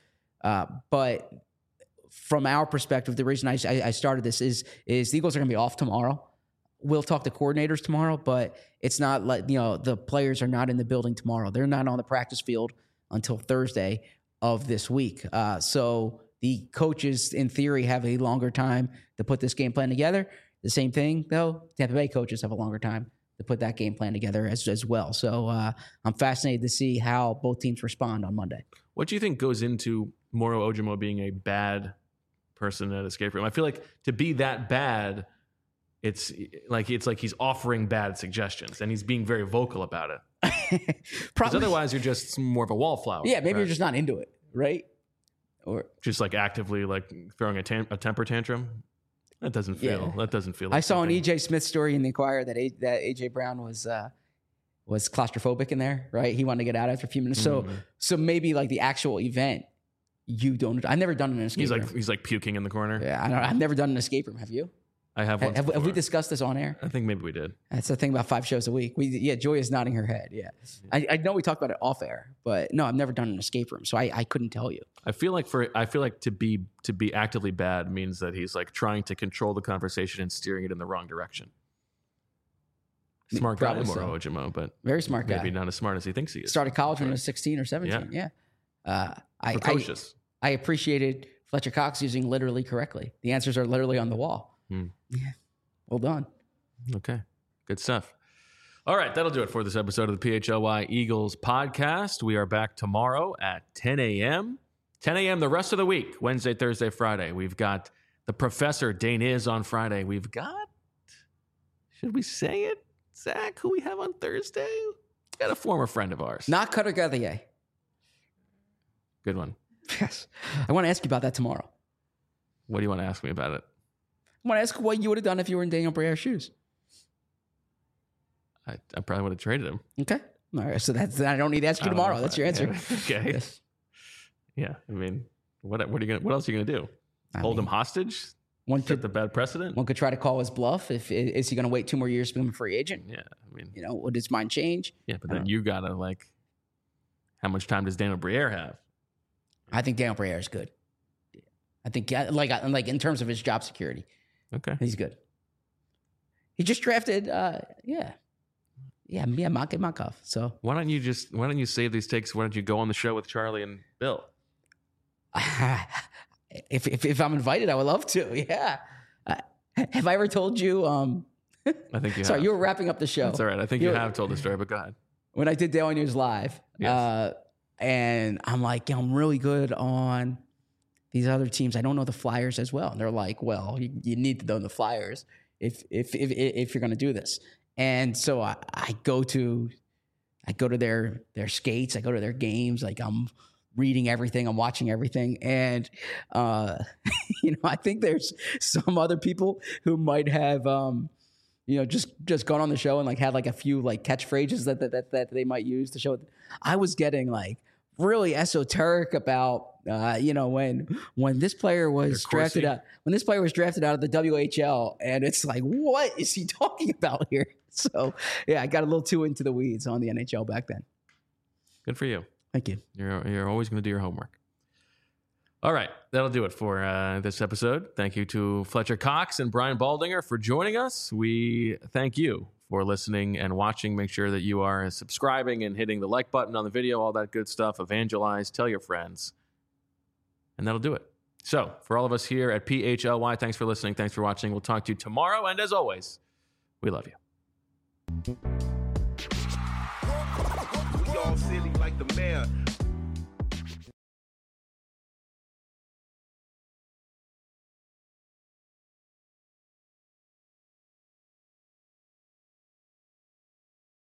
But from our perspective, the reason I started this is the Eagles are going to be off tomorrow. We'll talk to coordinators tomorrow, but it's not like, the players are not in the building tomorrow. They're not on the practice field until Thursday of this week. So the coaches, in theory, have a longer time to put this game plan together. The same thing, though, Tampa Bay coaches have a longer time to put that game plan together as well. So I'm fascinated to see how both teams respond on Monday. What do you think goes into Moro Ojomo being a bad person at Escape Room? I feel like to be that bad, it's like he's offering bad suggestions, and he's being very vocal about it. Because otherwise, you're just more of a wallflower. Yeah, maybe you're just not into it, right? Or just like actively like throwing a temper tantrum. That doesn't feel. Like I saw an EJ Smith story in the Inquirer that AJ Brown was claustrophobic in there, right? He wanted to get out after a few minutes. So maybe like the actual event, you don't. I've never done an escape room. He's like puking in the corner. Yeah, I've never done an escape room. Have you? I have. Have we discussed this on air? I think maybe we did. That's the thing about 5 shows a week. Joy is nodding her head. Yeah, I know we talked about it off air, but no, I've never done an escape room, so I couldn't tell you. I feel like to be actively bad means that he's like trying to control the conversation and steering it in the wrong direction. Smart guy, Moro Ojomo, but very smart guy. Maybe not as smart as he thinks he is. Started college when he was 16 or 17. Yeah. Precocious. I appreciated Fletcher Cox using literally correctly. The answers are literally on the wall. Yeah. Well done. Okay. Good stuff. All right. That'll do it for this episode of the PHLY Eagles podcast. We are back tomorrow at 10 a.m. 10 a.m. the rest of the week, Wednesday, Thursday, Friday. We've got the Professor Dane is on Friday. We've got, should we say it, Zach, who we have on Thursday? We've got a former friend of ours. Not Cutter Gauthier. Good one. Yes. I want to ask you about that tomorrow. What do you want to ask me about it? I want to ask what you would have done if you were in Daniel Briere's shoes. I probably would have traded him. Okay. All right. So I don't need to ask you tomorrow. That's your answer. Yeah. Okay. Yes. Yeah. I mean, what else are you going to do? Hold him hostage? Set the bad precedent? One could try to call his bluff. Is he going to wait 2 more years to become a free agent? Yeah. I mean, would his mind change? Yeah. But then you got to how much time does Daniel Briere have? I think Daniel Briere is good. I think like in terms of his job security. Okay. He's good. He just drafted, Mike Makov. So why don't you save these takes? Why don't you go on the show with Charlie and Bill? If I'm invited, I would love to. Yeah. Have I ever told you? I think you sorry, have. You were wrapping up the show. That's all right. I think you have told the story, but go ahead. When I did Daily News Live, yes. And I'm like, I'm really good on these other teams. I don't know the Flyers as well. And they're like, well, you need to know the Flyers if you're going to do this. And so I go to their skates. I go to their games. Like I'm reading everything. I'm watching everything. And, I think there's some other people who might have, just gone on the show and had a few catchphrases that they might use to show. I was getting really esoteric about when this player was drafted out of the WHL, and it's what is he talking about here? So yeah, I got a little too into the weeds on the NHL back then. Good for you. Thank you. You're always going to do your homework. All right, that'll do it for this episode. Thank you to Fletcher Cox and Brian Baldinger for joining us. We thank you for listening and watching. Make sure that you are subscribing and hitting the like button on the video, all that good stuff. Evangelize, tell your friends. And that'll do it. So for all of us here at PHLY, thanks for listening. Thanks for watching. We'll talk to you tomorrow. And as always, we love you. We all silly like the mayor.